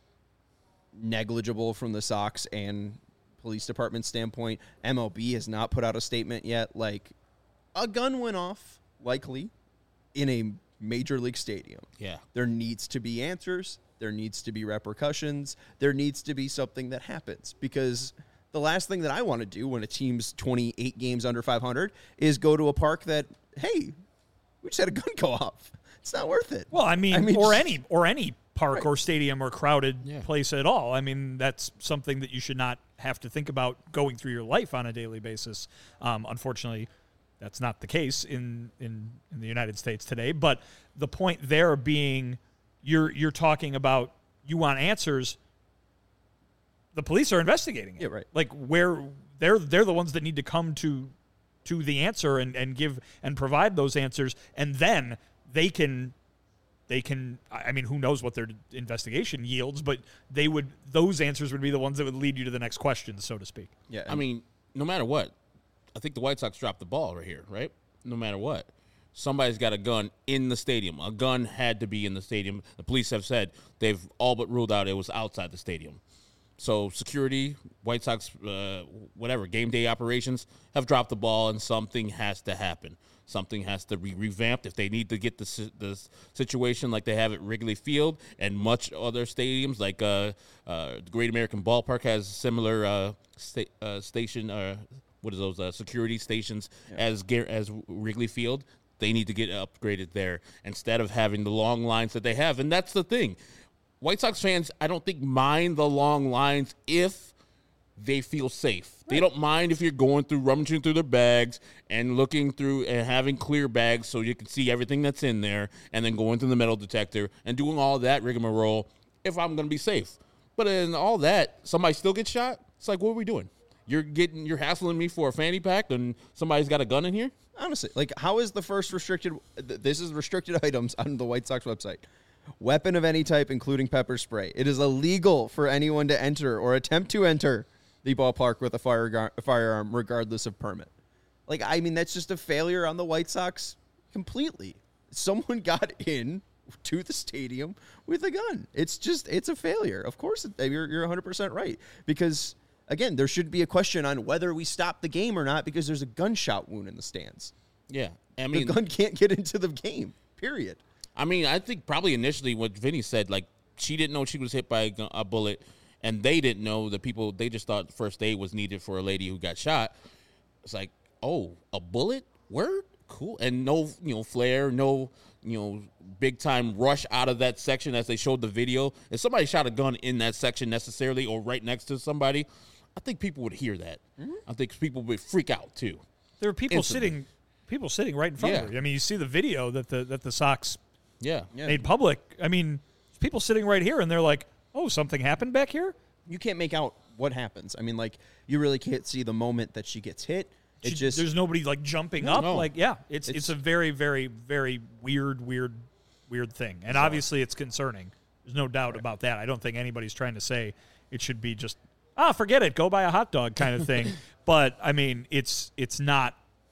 negligible from the Sox and police department standpoint. MLB has not put out a statement yet. Like, a gun went off, likely, in a major league stadium. Yeah. There needs to be answers. There needs to be repercussions. There needs to be something that happens, because the last thing that I want to do when a team's 28 games under 500 is go to a park that, hey, we just had a gun go off. It's not worth it. Well, I mean or any park Right. or stadium or crowded Yeah. place at all. I mean, that's something that you should not have to think about going through your life on a daily basis. Unfortunately, that's not the case in the United States today. But the point there being, you're talking about, you want answers. The police are investigating it. Yeah, right. Like, where they're the ones that need to come to the answer and give and provide those answers, and then they can, I mean, who knows what their investigation yields, but those answers would be the ones that would lead you to the next question, so to speak. Yeah, I mean, no matter what, I think the White Sox dropped the ball right here, right? No matter what. Somebody's got a gun in the stadium. A gun had to be in the stadium. The police have said they've all but ruled out it was outside the stadium. So security, White Sox, game day operations have dropped the ball, and something has to happen. Something has to be revamped if they need to get the situation like they have at Wrigley Field and much other stadiums, like the Great American Ballpark has similar station. What are those security stations as Wrigley Field? They need to get upgraded there instead of having the long lines that they have. And that's the thing. White Sox fans, I don't think, mind the long lines if they feel safe. Right. They don't mind if you're going through, rummaging through their bags and looking through and having clear bags so you can see everything that's in there, and then going through the metal detector and doing all that rigmarole if I'm going to be safe. But in all that, somebody still gets shot? It's like, what are we doing? You're hassling me for a fanny pack and somebody's got a gun in here? honestly, like, how is the first restricted? This is restricted items on the White Sox website. Weapon of any type, including pepper spray. It is illegal for anyone to enter or attempt to enter the ballpark with a firearm, regardless of permit. Like, I mean, that's just a failure on the White Sox completely. Someone got in to the stadium with a gun. It's a failure. Of course, you're 100% right. Because, again, there should be a question on whether we stop the game or not because there's a gunshot wound in the stands. Yeah. I mean, the gun can't get into the game, period. I mean, I think probably initially what Vinny said, like, she didn't know she was hit by a bullet, and they didn't know, they just thought first aid was needed for a lady who got shot. It's like, oh, a bullet? Word? Cool. And no, flare, no, big time rush out of that section as they showed the video. If somebody shot a gun in that section necessarily or right next to somebody, I think people would hear that. Mm-hmm. I think people would freak out too. There were people sitting right in front of her. I mean, you see the video that the Sox made public. I mean, people sitting right here, and they're like, oh, something happened back here? You can't make out what happens. I mean, like, you really can't see the moment that she gets hit. There's nobody, like, jumping up. No. Like, yeah, it's a very, very, very weird thing. And obviously it's concerning. There's no doubt about that. I don't think anybody's trying to say it should be just, forget it, go buy a hot dog kind of thing. But, I mean, it's not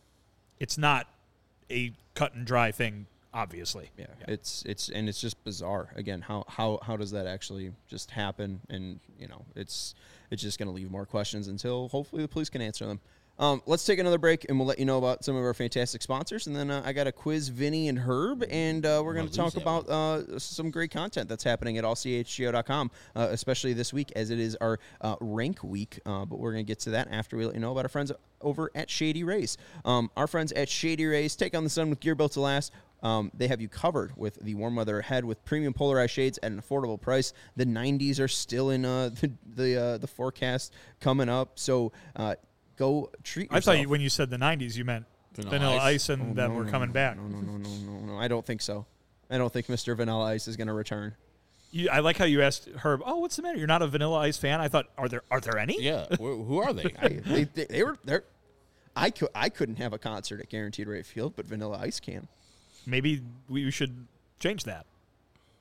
a cut and dry thing. Obviously, yeah. It's just bizarre. Again, how does that actually just happen? And it's just going to leave more questions until hopefully the police can answer them. Let's take another break, and we'll let you know about some of our fantastic sponsors. And then I got to quiz Vinny and Herb, and we're going to talk about some great content that's happening at allchgo.com, especially this week as it is our rank week. But we're going to get to that after we let you know about our friends over at Shady Rays. Our friends at Shady Rays take on the sun with gear built to last. They have you covered with the warm weather ahead with premium polarized shades at an affordable price. The 90s are still in the forecast coming up, so go treat yourself. I thought when you said the 90s, you meant Vanilla Ice and that we're coming back. No. I don't think so. I don't think Mr. Vanilla Ice is going to return. I like how you asked Herb, oh, what's the matter? You're not a Vanilla Ice fan? I thought, are there any? Yeah. Who are they? They were there. I couldn't have a concert at Guaranteed Rate Field, but Vanilla Ice can. Maybe we should change that.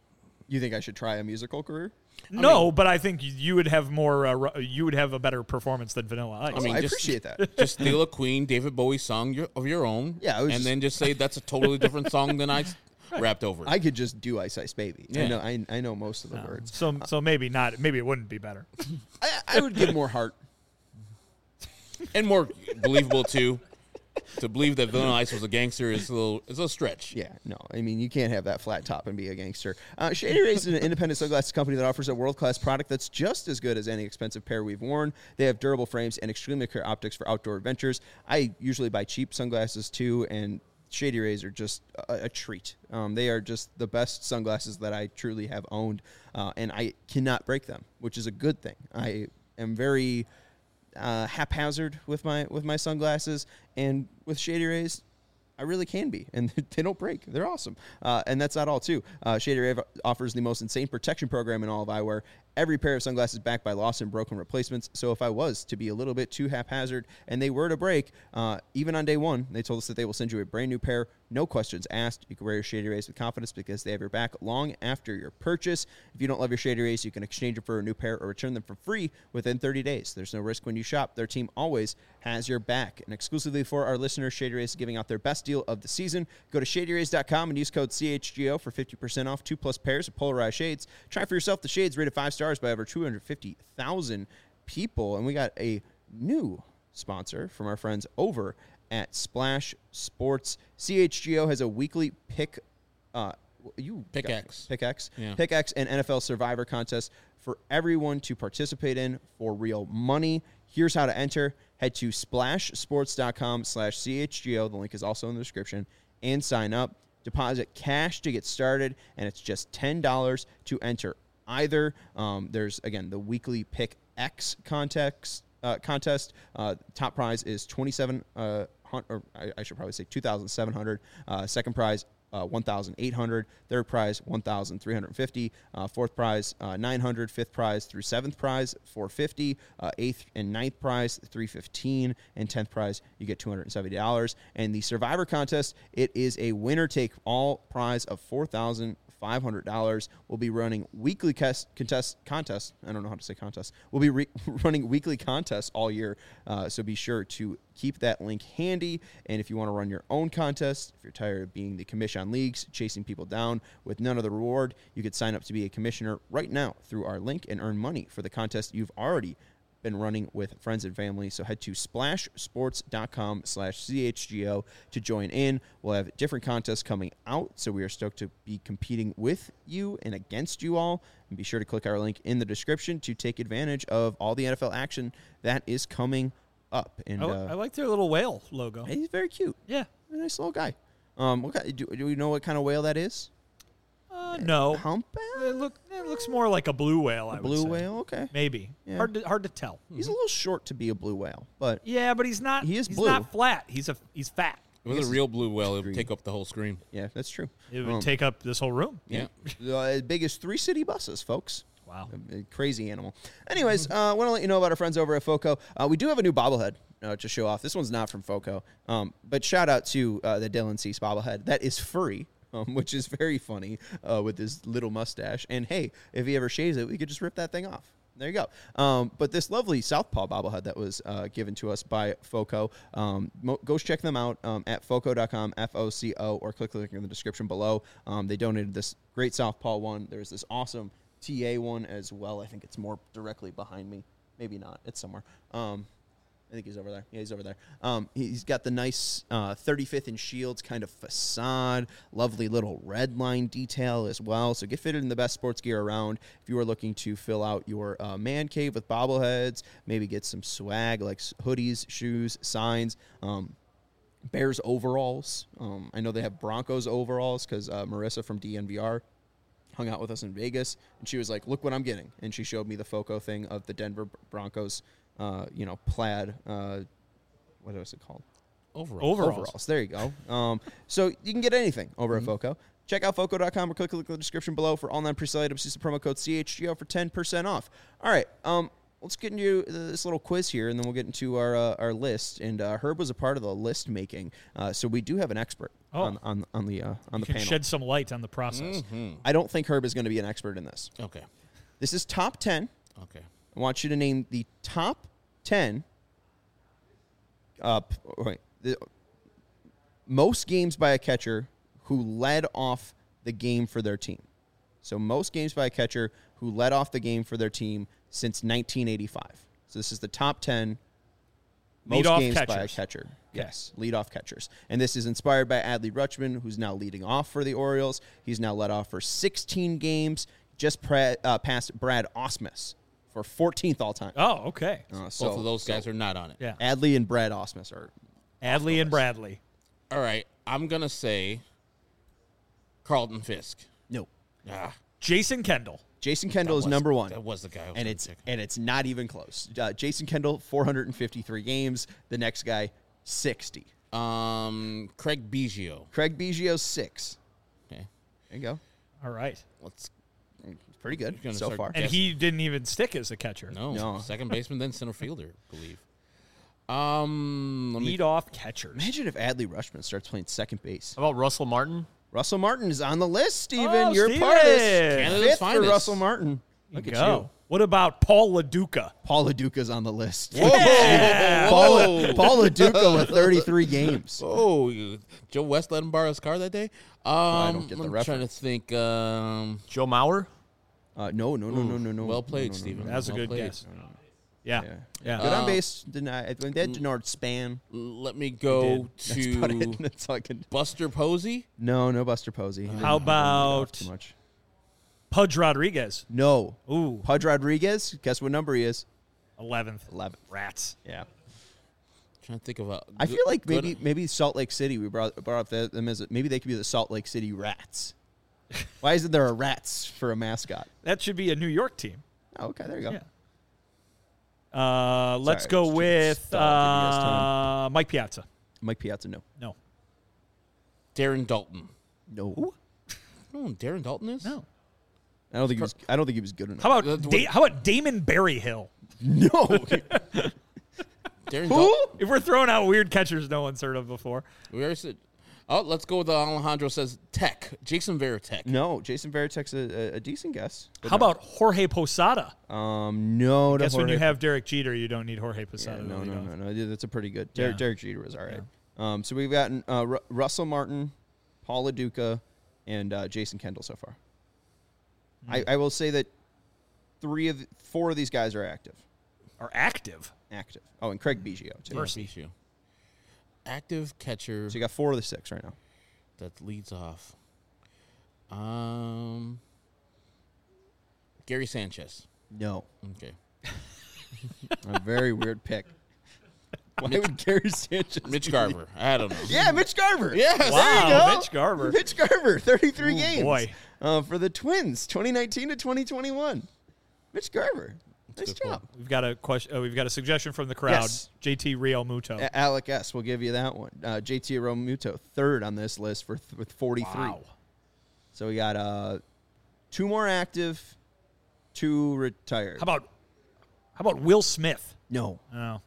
You think I should try a musical career? No, but I think you would have more. You would have a better performance than Vanilla Ice. I mean, I just- appreciate that. Just steal a Queen David Bowie song of your own. Yeah, I was and just- then just say that's a totally different song than I rapped over. I could just do Ice Ice Baby. Yeah. I know most of the words. so maybe not. Maybe it wouldn't be better. I would give more heart. And more believable too. To believe that Vanilla Ice was a gangster is a little stretch. Yeah, no. I mean, you can't have that flat top and be a gangster. Shady Rays is an independent sunglasses company that offers a world-class product that's just as good as any expensive pair we've worn. They have durable frames and extremely clear optics for outdoor adventures. I usually buy cheap sunglasses too, and Shady Rays are just a treat. They are just the best sunglasses that I truly have owned, and I cannot break them, which is a good thing. I am very haphazard with my sunglasses, and with Shady Rays, I really can be, and they don't break. They're awesome, and that's not all too. Shady Ray offers the most insane protection program in all of eyewear. Every pair of sunglasses backed by lost and broken replacements. So if I was to be a little bit too haphazard and they were to break, even on day one, they told us that they will send you a brand new pair, no questions asked. You can wear your Shady Rays with confidence because they have your back long after your purchase. If you don't love your Shady Rays, you can exchange them for a new pair or return them for free within 30 days. There's no risk when you shop. Their team always has your back. And exclusively for our listeners, Shady Rays is giving out their best deal of the season. Go to shadyrays.com and use code CHGO for 50% off 2+ pairs of polarized shades. Try for yourself the shades rated 5 stars by over 250,000 people. And we got a new sponsor from our friends over at Splash Sports. CHGO has a weekly pickaxe and NFL Survivor contest for everyone to participate in for real money. Here's how to enter. Head to splashsports.com/CHGO. The link is also in the description, and sign up. Deposit cash to get started, and it's just $10 to enter either. There's, again, the weekly Pick X contest. Top prize is $2,700, or I should probably say $2,700. Second prize, $1,800. Third prize, $1,350. Fourth prize, $900. Fifth prize through seventh prize, $450. Eighth and ninth prize, $315. And 10th prize, you get $270. And the Survivor contest, it is a winner-take-all prize of $4,500. We'll be running weekly contests. I don't know how to say contest. We'll be running weekly contests all year, so be sure to keep that link handy. And if you want to run your own contest, if you're tired of being the commission on leagues, chasing people down with none of the reward, you could sign up to be a commissioner right now through our link and earn money for the contest you've already been running with friends and family. So head to splashsports.com/CHGO to join in. We'll have different contests coming out, so we are stoked to be competing with you and against you all. And be sure to click our link in the description to take advantage of all the NFL action that is coming up. And I like their little whale logo. he's very cute. Yeah. A nice little guy. Do we know what kind of whale that is? No. Humpback? It looks more like a blue whale. I would Blue say. whale? Okay. Maybe. Yeah. Hard to tell. He's a little short to be a blue whale, but Yeah, but he's not. He is he's blue. not flat. He's fat. If it was a real blue whale, it would take up the whole screen. yeah, that's true. It would take up this whole room. Yeah. As big as 3 city buses, folks. Wow. A crazy animal. Anyways, I want to let you know about our friends over at FOCO. We do have a new bobblehead to show off. This one's not from FOCO, but shout out to the Dylan Cease bobblehead. That is furry, which is very funny with his little mustache. And hey, if he ever shaves it, we could just rip that thing off. There you go. But this lovely Southpaw bobblehead that was given to us by FOCO, go check them out at foco.com, FOCO, or click the link in the description below. They donated this great Southpaw one. There's this awesome TA one as well. I think it's more directly behind me. Maybe not. It's somewhere. I think he's over there. Yeah, he's over there. He's got the nice 35th and Shields kind of facade, lovely little red line detail as well. So get fitted in the best sports gear around. If you are looking to fill out your man cave with bobbleheads, maybe get some swag like hoodies, shoes, signs, Bears overalls. I know they have Broncos overalls because Marissa from DNVR hung out with us in Vegas, and she was like, look what I'm getting. And she showed me the FOCO thing of the Denver Broncos plaid, what was it called? Overalls. There you go. So you can get anything over at FOCO. Check out foco.com or click the description below for all non-presale items. Use the promo code CHGO for 10% off. All right. let's get into this little quiz here, and then we'll get into our list. And Herb was a part of the list making, so we do have an expert on the You can panel. shed some light on the process. I don't think Herb is going to be an expert in this. Okay. This is top 10. Okay. I want you to name the top 10 most games by a catcher who led off the game for their team. So most games by a catcher who led off the game for their team since 1985. So this is the top 10 most Leadoff games by a catchers. catcher. Yes, leadoff catchers. And this is inspired by Adley Rutschman, who's now leading off for the Orioles. He's now led off for 16 games, just past Brad Ausmus for 14th all-time. Oh, okay. Both of those guys are not on it. Yeah. Adley and Brad Ausmus are Adley and Bradley. All right. I'm going to say Carlton Fisk. no. Jason Kendall. Jason Kendall is number one. That was the guy I was And gonna it's pick. and it's not even close. Jason Kendall, 453 games. The next guy, 60. Craig Biggio. Craig Biggio, 6. Okay. There you go. All right. Let's Pretty good gonna so start far. And Yes. he didn't even stick as a catcher. no. Second baseman, then center fielder, I believe. Let me Lead off catchers. Imagine if Adley Rutschman starts playing second base. How about Russell Martin? Russell Martin is on the list, Steven. Oh, You're part of this. Steven. Canada's Fifth for finest. Russell Martin. Look Go. at you. What about Paul LaDuca? Paul LaDuca's on the list. Yeah. Paul LaDuca with 33 games. Oh, Joe West let him borrow his car that day. I don't get the I'm trying to reference. think. Joe Mauer? No. Well played, No. Stephen. That's a Well good played. guess. Yeah. Yeah. Good on base. Denied. They had Denard Span. Let me go That's about to it. That's all I can. Buster Posey. No Buster Posey. He didn't How lead off about too much? Pudge Rodriguez? No. Ooh, Pudge Rodriguez. Guess what number he is? 11th. 11. Rats. Yeah. Trying to think of a. I feel like good- maybe Salt Lake City. We brought up them as maybe they could be the Salt Lake City Rats. Why isn't there a Rats for a mascot? That should be a New York team. Oh, okay, there you go. Yeah. Let's Sorry, go just with stop, give you guys time. Mike Piazza. Mike Piazza, no. No. Darren Dalton. No. Oh, Darren Dalton is? No. I don't think he was good enough. How about Damon Berryhill? No. Darren Who? Dalton. If we're throwing out weird catchers no one's heard of before. We already said. Oh, let's go with Alejandro says Tech. Jason Veritek. No, Jason Veritek's a decent guess. but How no. about Jorge Posada? No. to Guess when you Jorge- have Derek Jeter, you don't need Jorge Yeah, Posada. to no. lead off. Yeah, that's a pretty good. Yeah. Derek Jeter was all right. So we've gotten Russell Martin, Paul LaDuca, and Jason Kendall so far. I will say that 4 of these guys are active. Are active. Oh, and Craig Biggio too. Mercy. Issue. Active catcher So you got 4 of the 6 right now. that leads off. Gary Sanchez. No, Okay. a very weird pick. Why would Gary Sanchez? Mitch Garver. I don't know. Yeah, Mitch Garver. Yes. There you Wow, go. Mitch Garver. Mitch Garver, 33 Ooh, games. boy. For the Twins, 2019 to 2021. Mitch Garver. Nice good job. We've got a question. We've got a suggestion from the crowd. Yes. JT Real Muto. Alec S. will give you that one. JT Romuto, 3rd on this list with 43. Wow. So we got 2 more active, 2 retired. How about Will Smith? No. Oh.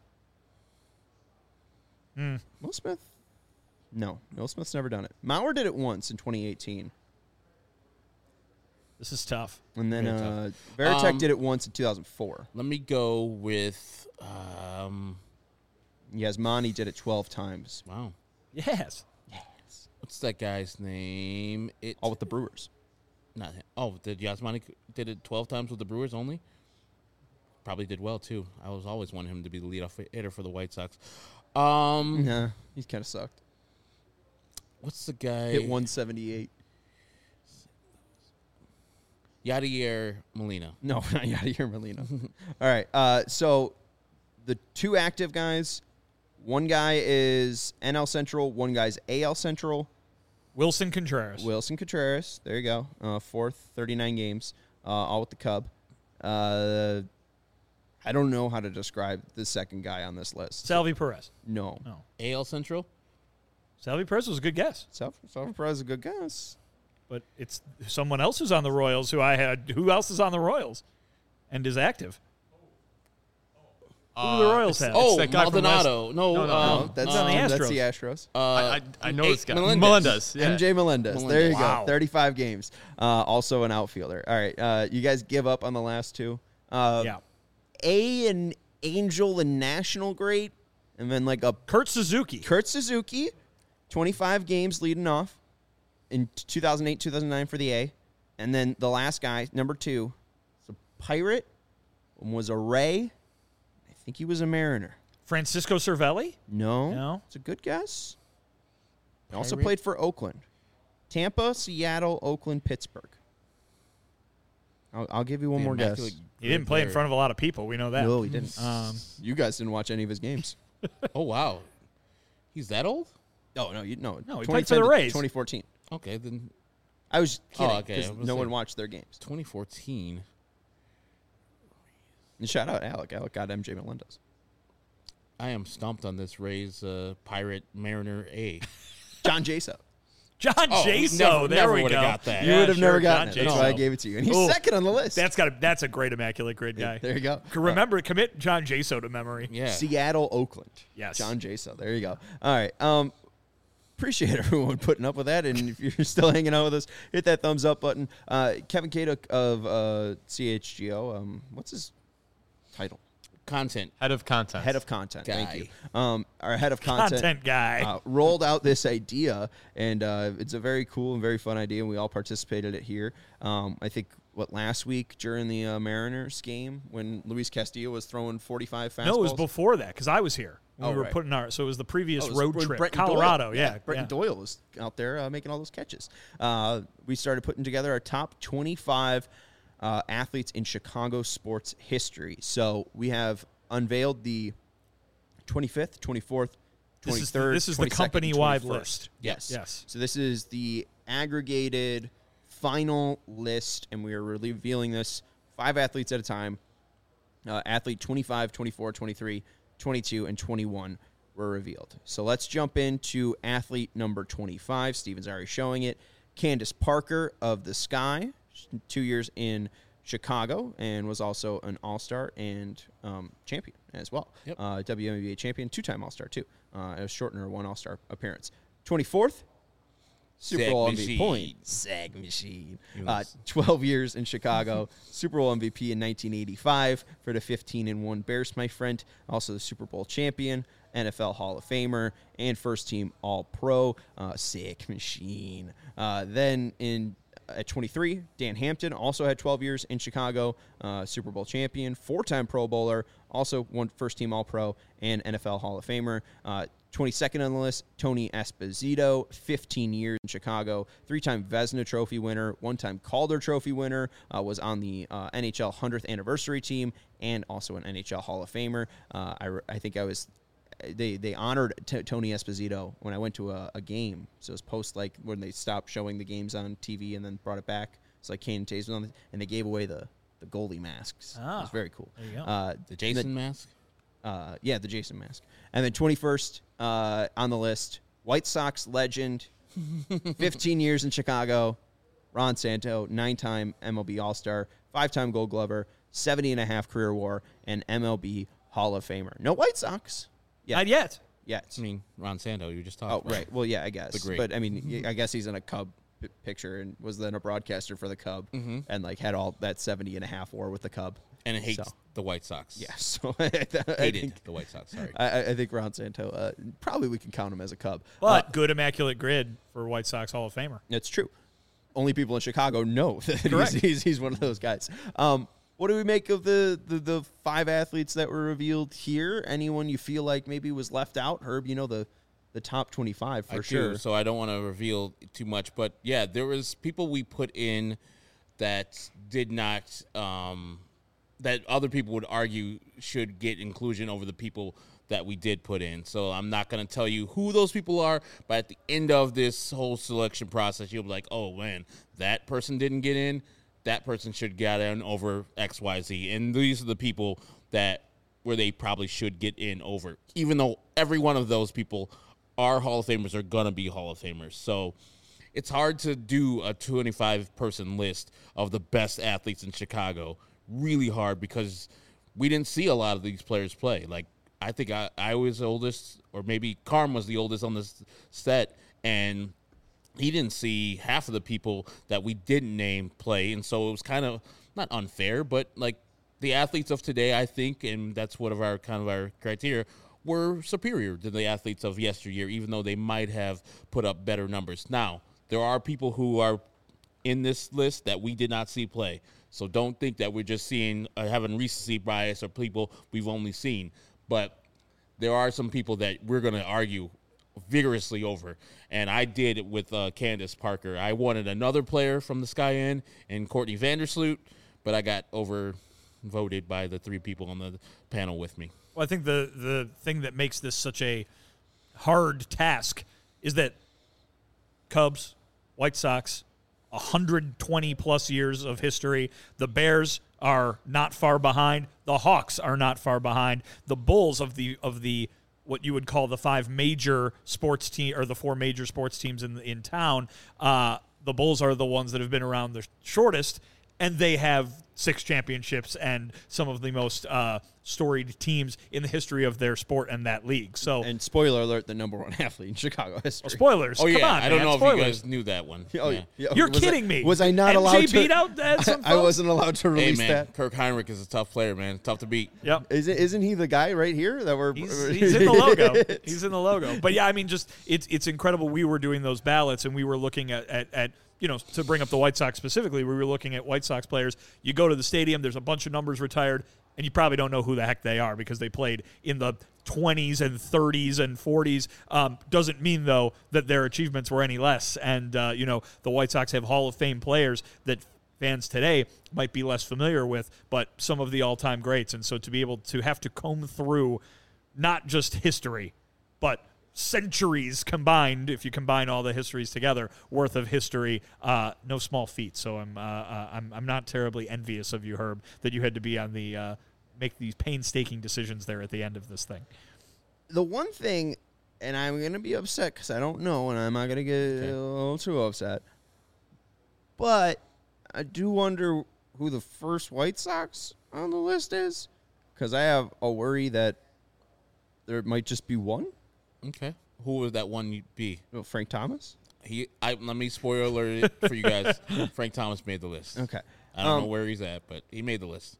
Will Smith? No. Will Smith's never done it. Mauer did it once in 2018. This is tough. And then Very tough. Veritek did it once in 2004. Let me go with. Yasmani did it 12 times. Wow. Yes. What's that guy's name? All with the Brewers. Not him. Oh, did Yasmani did it 12 times with the Brewers only? Probably did well too. I was always wanting him to be the leadoff hitter for the White Sox. Nah, he's kind of sucked. What's the guy? Hit 178. Yadier Molina. No, not Yadier Molina. All right. So the 2 active guys, one guy is NL Central, one guy's AL Central. Wilson Contreras. Wilson Contreras. There you go. 4th, 39 games, all with the Cub. I don't know how to describe the second guy on this list. Salvi Perez. No. No. AL Central. Salvi Perez was a good guess, Salvador Perez is a good guess. but it's someone else who's on the Royals who I had. Who else is on the Royals and is active? Who do the Royals have? Oh, that guy from Maldonado. No, No, that's on the that's Astros. the Astros. I know this guy. Melendez. Yeah. MJ Melendez. There you Wow. go. 35 games. Also an outfielder. All right. You guys give up on the last two. Yeah. An Angel and National great, and then like a Kurt Suzuki. Kurt Suzuki, 25 games leading off in 2008, 2009 for the A. And then the last guy, number 2, was a Pirate, one was a Ray. I think he was a Mariner. Francisco Cervelli? No. No? It's a good guess. He also Pirate? played for Oakland. Tampa, Seattle, Oakland, Pittsburgh. I'll give you one more guess. He didn't play in front of a lot of people. We know that. No, he didn't. You guys didn't watch any of his games. Oh, wow. He's that old? Oh, no. No, he played for the Rays. 2014. Okay, then I was kidding okay. because I was no like- one watched their games. 2014. And shout out Alec. Alec got MJ Melendez. I am stumped on this Rays Pirate Mariner A. John Jaso. John Oh, Jaso. There never we go. would've got that. You Yeah, would have sure, never gotten John it. That's Jaso. why I gave it to you. And he's Ooh. second on the list. That's a great immaculate grid guy. There you go. Remember, commit John Jaso to memory. Yeah. Seattle, Oakland. Yes. John Jaso. There you go. All right. Appreciate everyone putting up with that. And if you're still hanging out with us, hit that thumbs up button. Kevin Cato of CHGO. What's his title? Content. Head of content. Head of content. Guy. Thank you. Our head of content guy. rolled out this idea, and it's a very cool and very fun idea, and we all participated it here. I think, last week during the Mariners game when Luis Castillo was throwing 45 fastballs? No, it was before that because I was here. When Oh, we were right. putting so it was the previous Oh, it was road when trip, Brenton Colorado. Doyle. Yeah, Brenton Doyle was out there making all those catches. We started putting together our top 25 athletes in Chicago sports history. So we have unveiled the 25th, 24th, 23rd. This is the 22nd, company-wide 21st. list. Yes. Yes. So this is the aggregated final list, and we are revealing this 5 athletes at a time. Athlete 25, 24, 23, 22, and 21 were revealed. So let's jump into athlete number 25. Steven's already showing it. Candace Parker of the Sky, 2 years in Chicago, and was also an All-Star and champion as well. Yep. WNBA champion, 2-time All-Star too. A shortener, 1 All-Star appearance. 24th, Super Sag Bowl machine. MVP. Sag machine. Yes. 12 years in Chicago, Super Bowl MVP in 1985 for the 15-1 Bears, my friend. Also the Super Bowl champion, NFL Hall of Famer, and first-team All-Pro. Sick machine. Then at 23, Dan Hampton also had 12 years in Chicago, Super Bowl champion, 4-time Pro Bowler, also one first-team All-Pro and NFL Hall of Famer. 22nd on the list, Tony Esposito, 15 years in Chicago, 3-time Vezina Trophy winner, 1-time Calder Trophy winner, was on the NHL 100th anniversary team, and also an NHL Hall of Famer. I think I was... They honored Tony Esposito when I went to a game. So it was post when they stopped showing the games on TV and then brought it back. It's like Kane Tays was on, and they gave away the goalie masks. It was very cool. There you go. The Jason mask? Yeah, the Jason mask. And then 21st on the list, White Sox legend, 15 years in Chicago, Ron Santo, 9-time MLB All-Star, 5-time Gold Glover, 70.5 career WAR, and MLB Hall of Famer. No White Sox. Yeah. Not yet. Yeah. I mean, Ron Santo, you just Oh, talked about. right. Well, yeah, I guess. The great. But, I mean, I guess he's in a Cub picture and was then a broadcaster for the Cub and, had all that 70.5 WAR with the Cub. And it hates So. the White Sox. Yeah, so Hated the White Sox, sorry. I think Ron Santo, probably we can count him as a Cub. But good immaculate grid for White Sox Hall of Famer. That's true. Only people in Chicago know that Correct. he's one of those guys. What do we make of the 5 athletes that were revealed here? Anyone you feel like maybe was left out? Herb, the top 25 for I sure. do, so I don't want to reveal too much. But, yeah, there was people we put in that did not that other people would argue should get inclusion over the people that we did put in. So I'm not going to tell you who those people are, but at the end of this whole selection process, you'll be like, oh, man, that person didn't get in. That person should get in over XYZ. And these are the people where they probably should get in over, even though every one of those people are Hall of Famers, are going to be Hall of Famers. So it's hard to do a 25-person list of the best athletes in Chicago. Really hard, because we didn't see a lot of these players play. Like, I think I was the oldest, or maybe Carm was the oldest on this set, and he didn't see half of the people that we didn't name play. And so it was kind of not unfair, but like the athletes of today, I think, and that's one of our kind of our criteria, were superior to the athletes of yesteryear, even though they might have put up better numbers. Now, there are people who are in this list that we did not see play. So don't think that we're just seeing having recency bias or people we've only seen. But there are some people that we're going to argue vigorously over. And I did it with Candace Parker. I wanted another player from the Sky Inn and Courtney Vandersloot, but I got overvoted by the three people on the panel with me. Well, I think the thing that makes this such a hard task is that Cubs, White Sox, 120-plus years of history. The Bears are not far behind. The Hawks are not far behind. The Bulls of the what you would call the five major sports team or the four major sports teams in town. The Bulls are the ones that have been around the shortest, and they have 6 championships and some of the most storied teams in the history of their sport and that league. So, and spoiler alert, the number 1 athlete in Chicago history. Spoilers. Oh, yeah. Come on, I don't man. know Spoilers. if you guys knew that one. Oh, Yeah. yeah. You're kidding me. Was I not MJ allowed to? beat out some I folks? wasn't allowed to Hey, release man, that. Kirk Heinrich is a tough player, man. Tough to beat. Yep. Isn't he the guy right here that we're? He's in the logo. He's in the logo. But yeah, I mean, just it's incredible. We were doing those ballots, and we were looking at to bring up the White Sox specifically, we were looking at White Sox players. You go to the stadium, there's a bunch of numbers retired, and you probably don't know who the heck they are because they played in the 20s and 30s and 40s. Doesn't mean, though, that their achievements were any less. And, the White Sox have Hall of Fame players that fans today might be less familiar with, but some of the all-time greats. And so to be able to have to comb through not just history, but centuries combined, if you combine all the histories together, worth of history, no small feat. So I'm not terribly envious of you, Herb, that you had to be on the make these painstaking decisions there at the end of this thing. The one thing, and I'm going to be upset because I don't know, and I'm not going to get a little too upset, but I do wonder who the first White Sox on the list is, because I have a worry that there might just be one. Okay. Who would that one be? Oh, Frank Thomas? Let me spoiler alert it for you guys. Frank Thomas made the list. Okay. I don't know where he's at, but he made the list.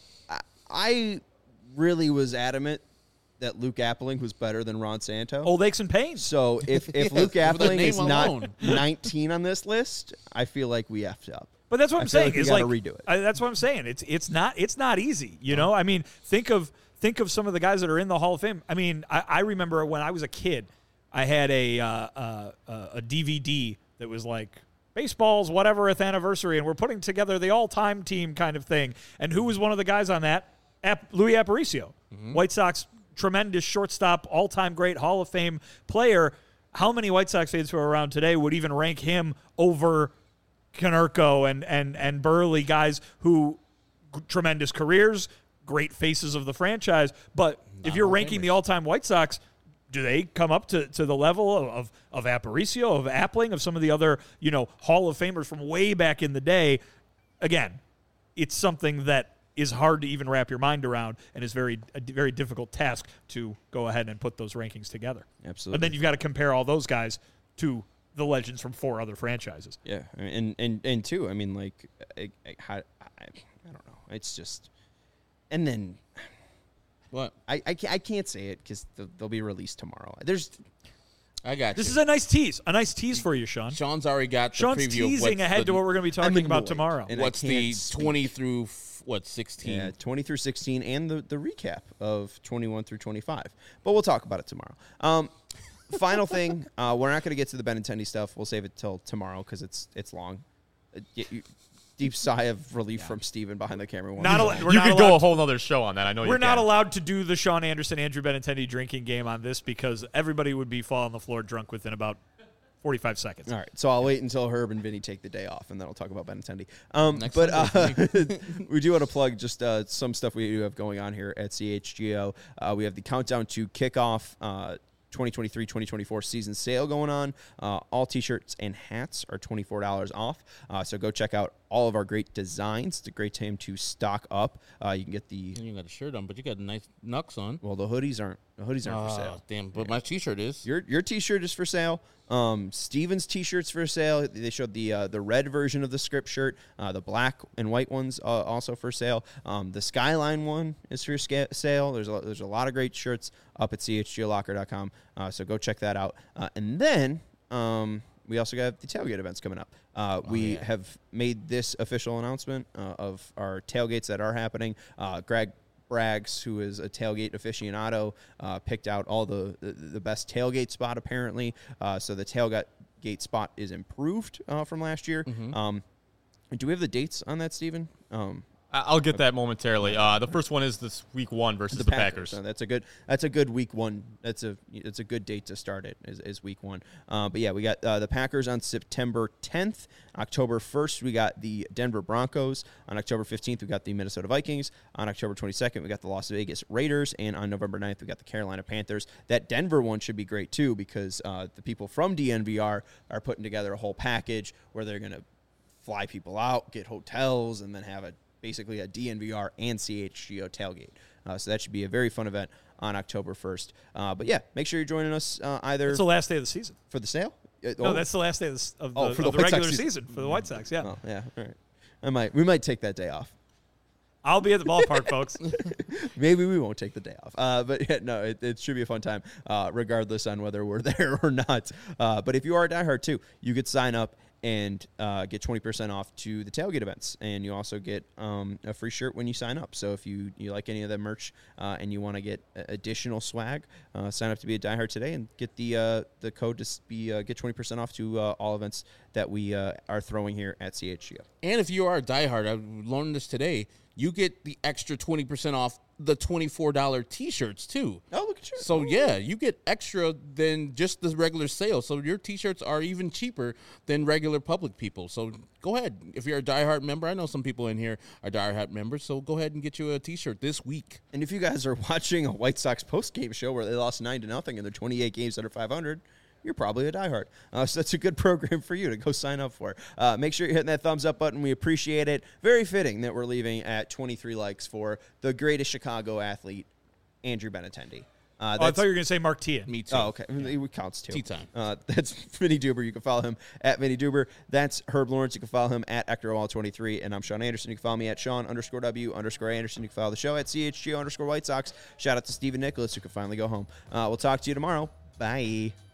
I really was adamant that Luke Appling was better than Ron Santo. Old aches and pains. So if Luke for the Appling name is not alone. 19 on this list, I feel like we effed up. But that's what I'm I feel saying. like we Is gotta like redo it. that's what I'm saying. It's not easy. You know, I mean, think of some of the guys that are in the Hall of Fame. I mean, I remember when I was a kid, I had a DVD that was like baseball's whateverth anniversary, and we're putting together the all-time team kind of thing. And who was one of the guys on that? Louis Aparicio, White Sox tremendous shortstop, all-time great Hall of Fame player. How many White Sox fans who are around today would even rank him over Konerko and Burley, guys who tremendous careers, great faces of the franchise? But if you're ranking the all-time White Sox, do they come up to the level of Aparicio, of Appling, of some of the other Hall of Famers from way back in the day? Again, it's something that is hard to even wrap your mind around, and is a very difficult task to go ahead and put those rankings together. Absolutely. And then you've got to compare all those guys to the legends from 4 other franchises. Yeah, and too, I mean, like, I don't know. It's just, and then What? I can't say it because they'll be released tomorrow. I got you. This is a nice tease for you, Sean. Sean's already got the Sean's preview teasing of ahead to what we're going to be talking about annoyed. tomorrow. And what's I the can't speak. 20 through 16. Yeah, 20 through 16 and the recap of 21 through 25. But we'll talk about it tomorrow. Final thing, we're not going to get to the Benintendi stuff. We'll save it till tomorrow because it's long. Deep sigh of relief from Steven behind the camera. We're You not could go allowed a whole other show on that. I know We're you not can. allowed to do the Sean Anderson, Andrew Benintendi drinking game on this because everybody would be falling on the floor drunk within about 45 seconds. All right, so I'll wait until Herb and Vinny take the day off, and then I'll talk about Benintendi. Next But we do want to plug just some stuff we do have going on here at CHGO. We have the countdown to kickoff 2023-2024 season sale going on. All T-shirts and hats are $24 off. So go check out all of our great designs. It's a great time to stock up. You can get the You got a shirt on, but you got a nice Nux on. well, the hoodies aren't for sale. Damn, but my T-shirt is. Your T-shirt is for sale. Steven's T-shirt's for sale. They showed the red version of the script shirt. The black and white one's also for sale. The Skyline one is for sale. There's a lot of great shirts up at chglocker.com. So go check that out. And then we also got the tailgate events coming up. We have made this official announcement of our tailgates that are happening. Greg Braggs, who is a tailgate aficionado, picked out all the best tailgate spot apparently. So the tailgate spot is improved from last year. Do we have the dates on that, Steven? I'll get that momentarily. The first one is this week 1 versus the Packers. So that's a good week 1. It's a good date to start it is week 1. But yeah, we got the Packers on September 10th. October 1st, we got the Denver Broncos. On October 15th, we got the Minnesota Vikings. On October 22nd, we got the Las Vegas Raiders. And on November 9th, we got the Carolina Panthers. That Denver one should be great too, because the people from DNVR are putting together a whole package where they're going to fly people out, get hotels, and then have basically a DNVR and CHGO tailgate. So that should be a very fun event on October 1st. But yeah, make sure you're joining us either. It's the last day of the season. For the sale? No, that's the last day of the for the regular Sox season for the White Sox. Yeah, Oh, yeah. All right. We might take that day off. I'll be at the ballpark, folks. Maybe we won't take the day off. But yeah, no, it should be a fun time, regardless on whether we're there or not. But if you are a diehard too, you could sign up and get 20% off to the tailgate events. And you also get a free shirt when you sign up. So if you like any of the merch and you want to get additional swag, sign up to be a diehard today and get the code to get 20% off to all events that we are throwing here at CHGO. And if you are a diehard, I learned this today, you get the extra 20% off the $24 T-shirts too. Oh, look at you. So yeah, you get extra than just the regular sale. So your T-shirts are even cheaper than regular public people. So go ahead. If you're a diehard member, I know some people in here are diehard members, so go ahead and get you a T-shirt this week. And if you guys are watching a White Sox post-game show where they lost 9-0 in their 28 games under 500, you're probably a diehard. So that's a good program for you to go sign up for. Make sure you're hitting that thumbs up button. We appreciate it. Very fitting that we're leaving at 23 likes for the greatest Chicago athlete, Andrew Benintendi. I thought you were going to say Mark Tian. Me too. Oh, okay. It counts too. Tea time. That's Vinny Duber. You can follow him at Vinny Duber. That's Herb Lawrence. You can follow him at Ectorwall23. And I'm Sean Anderson. You can follow me at Sean_W_Anderson. You can follow the show at CHGO_White Sox. Shout out to Stephen Nicholas, who can finally go home. We'll talk to you tomorrow. Bye.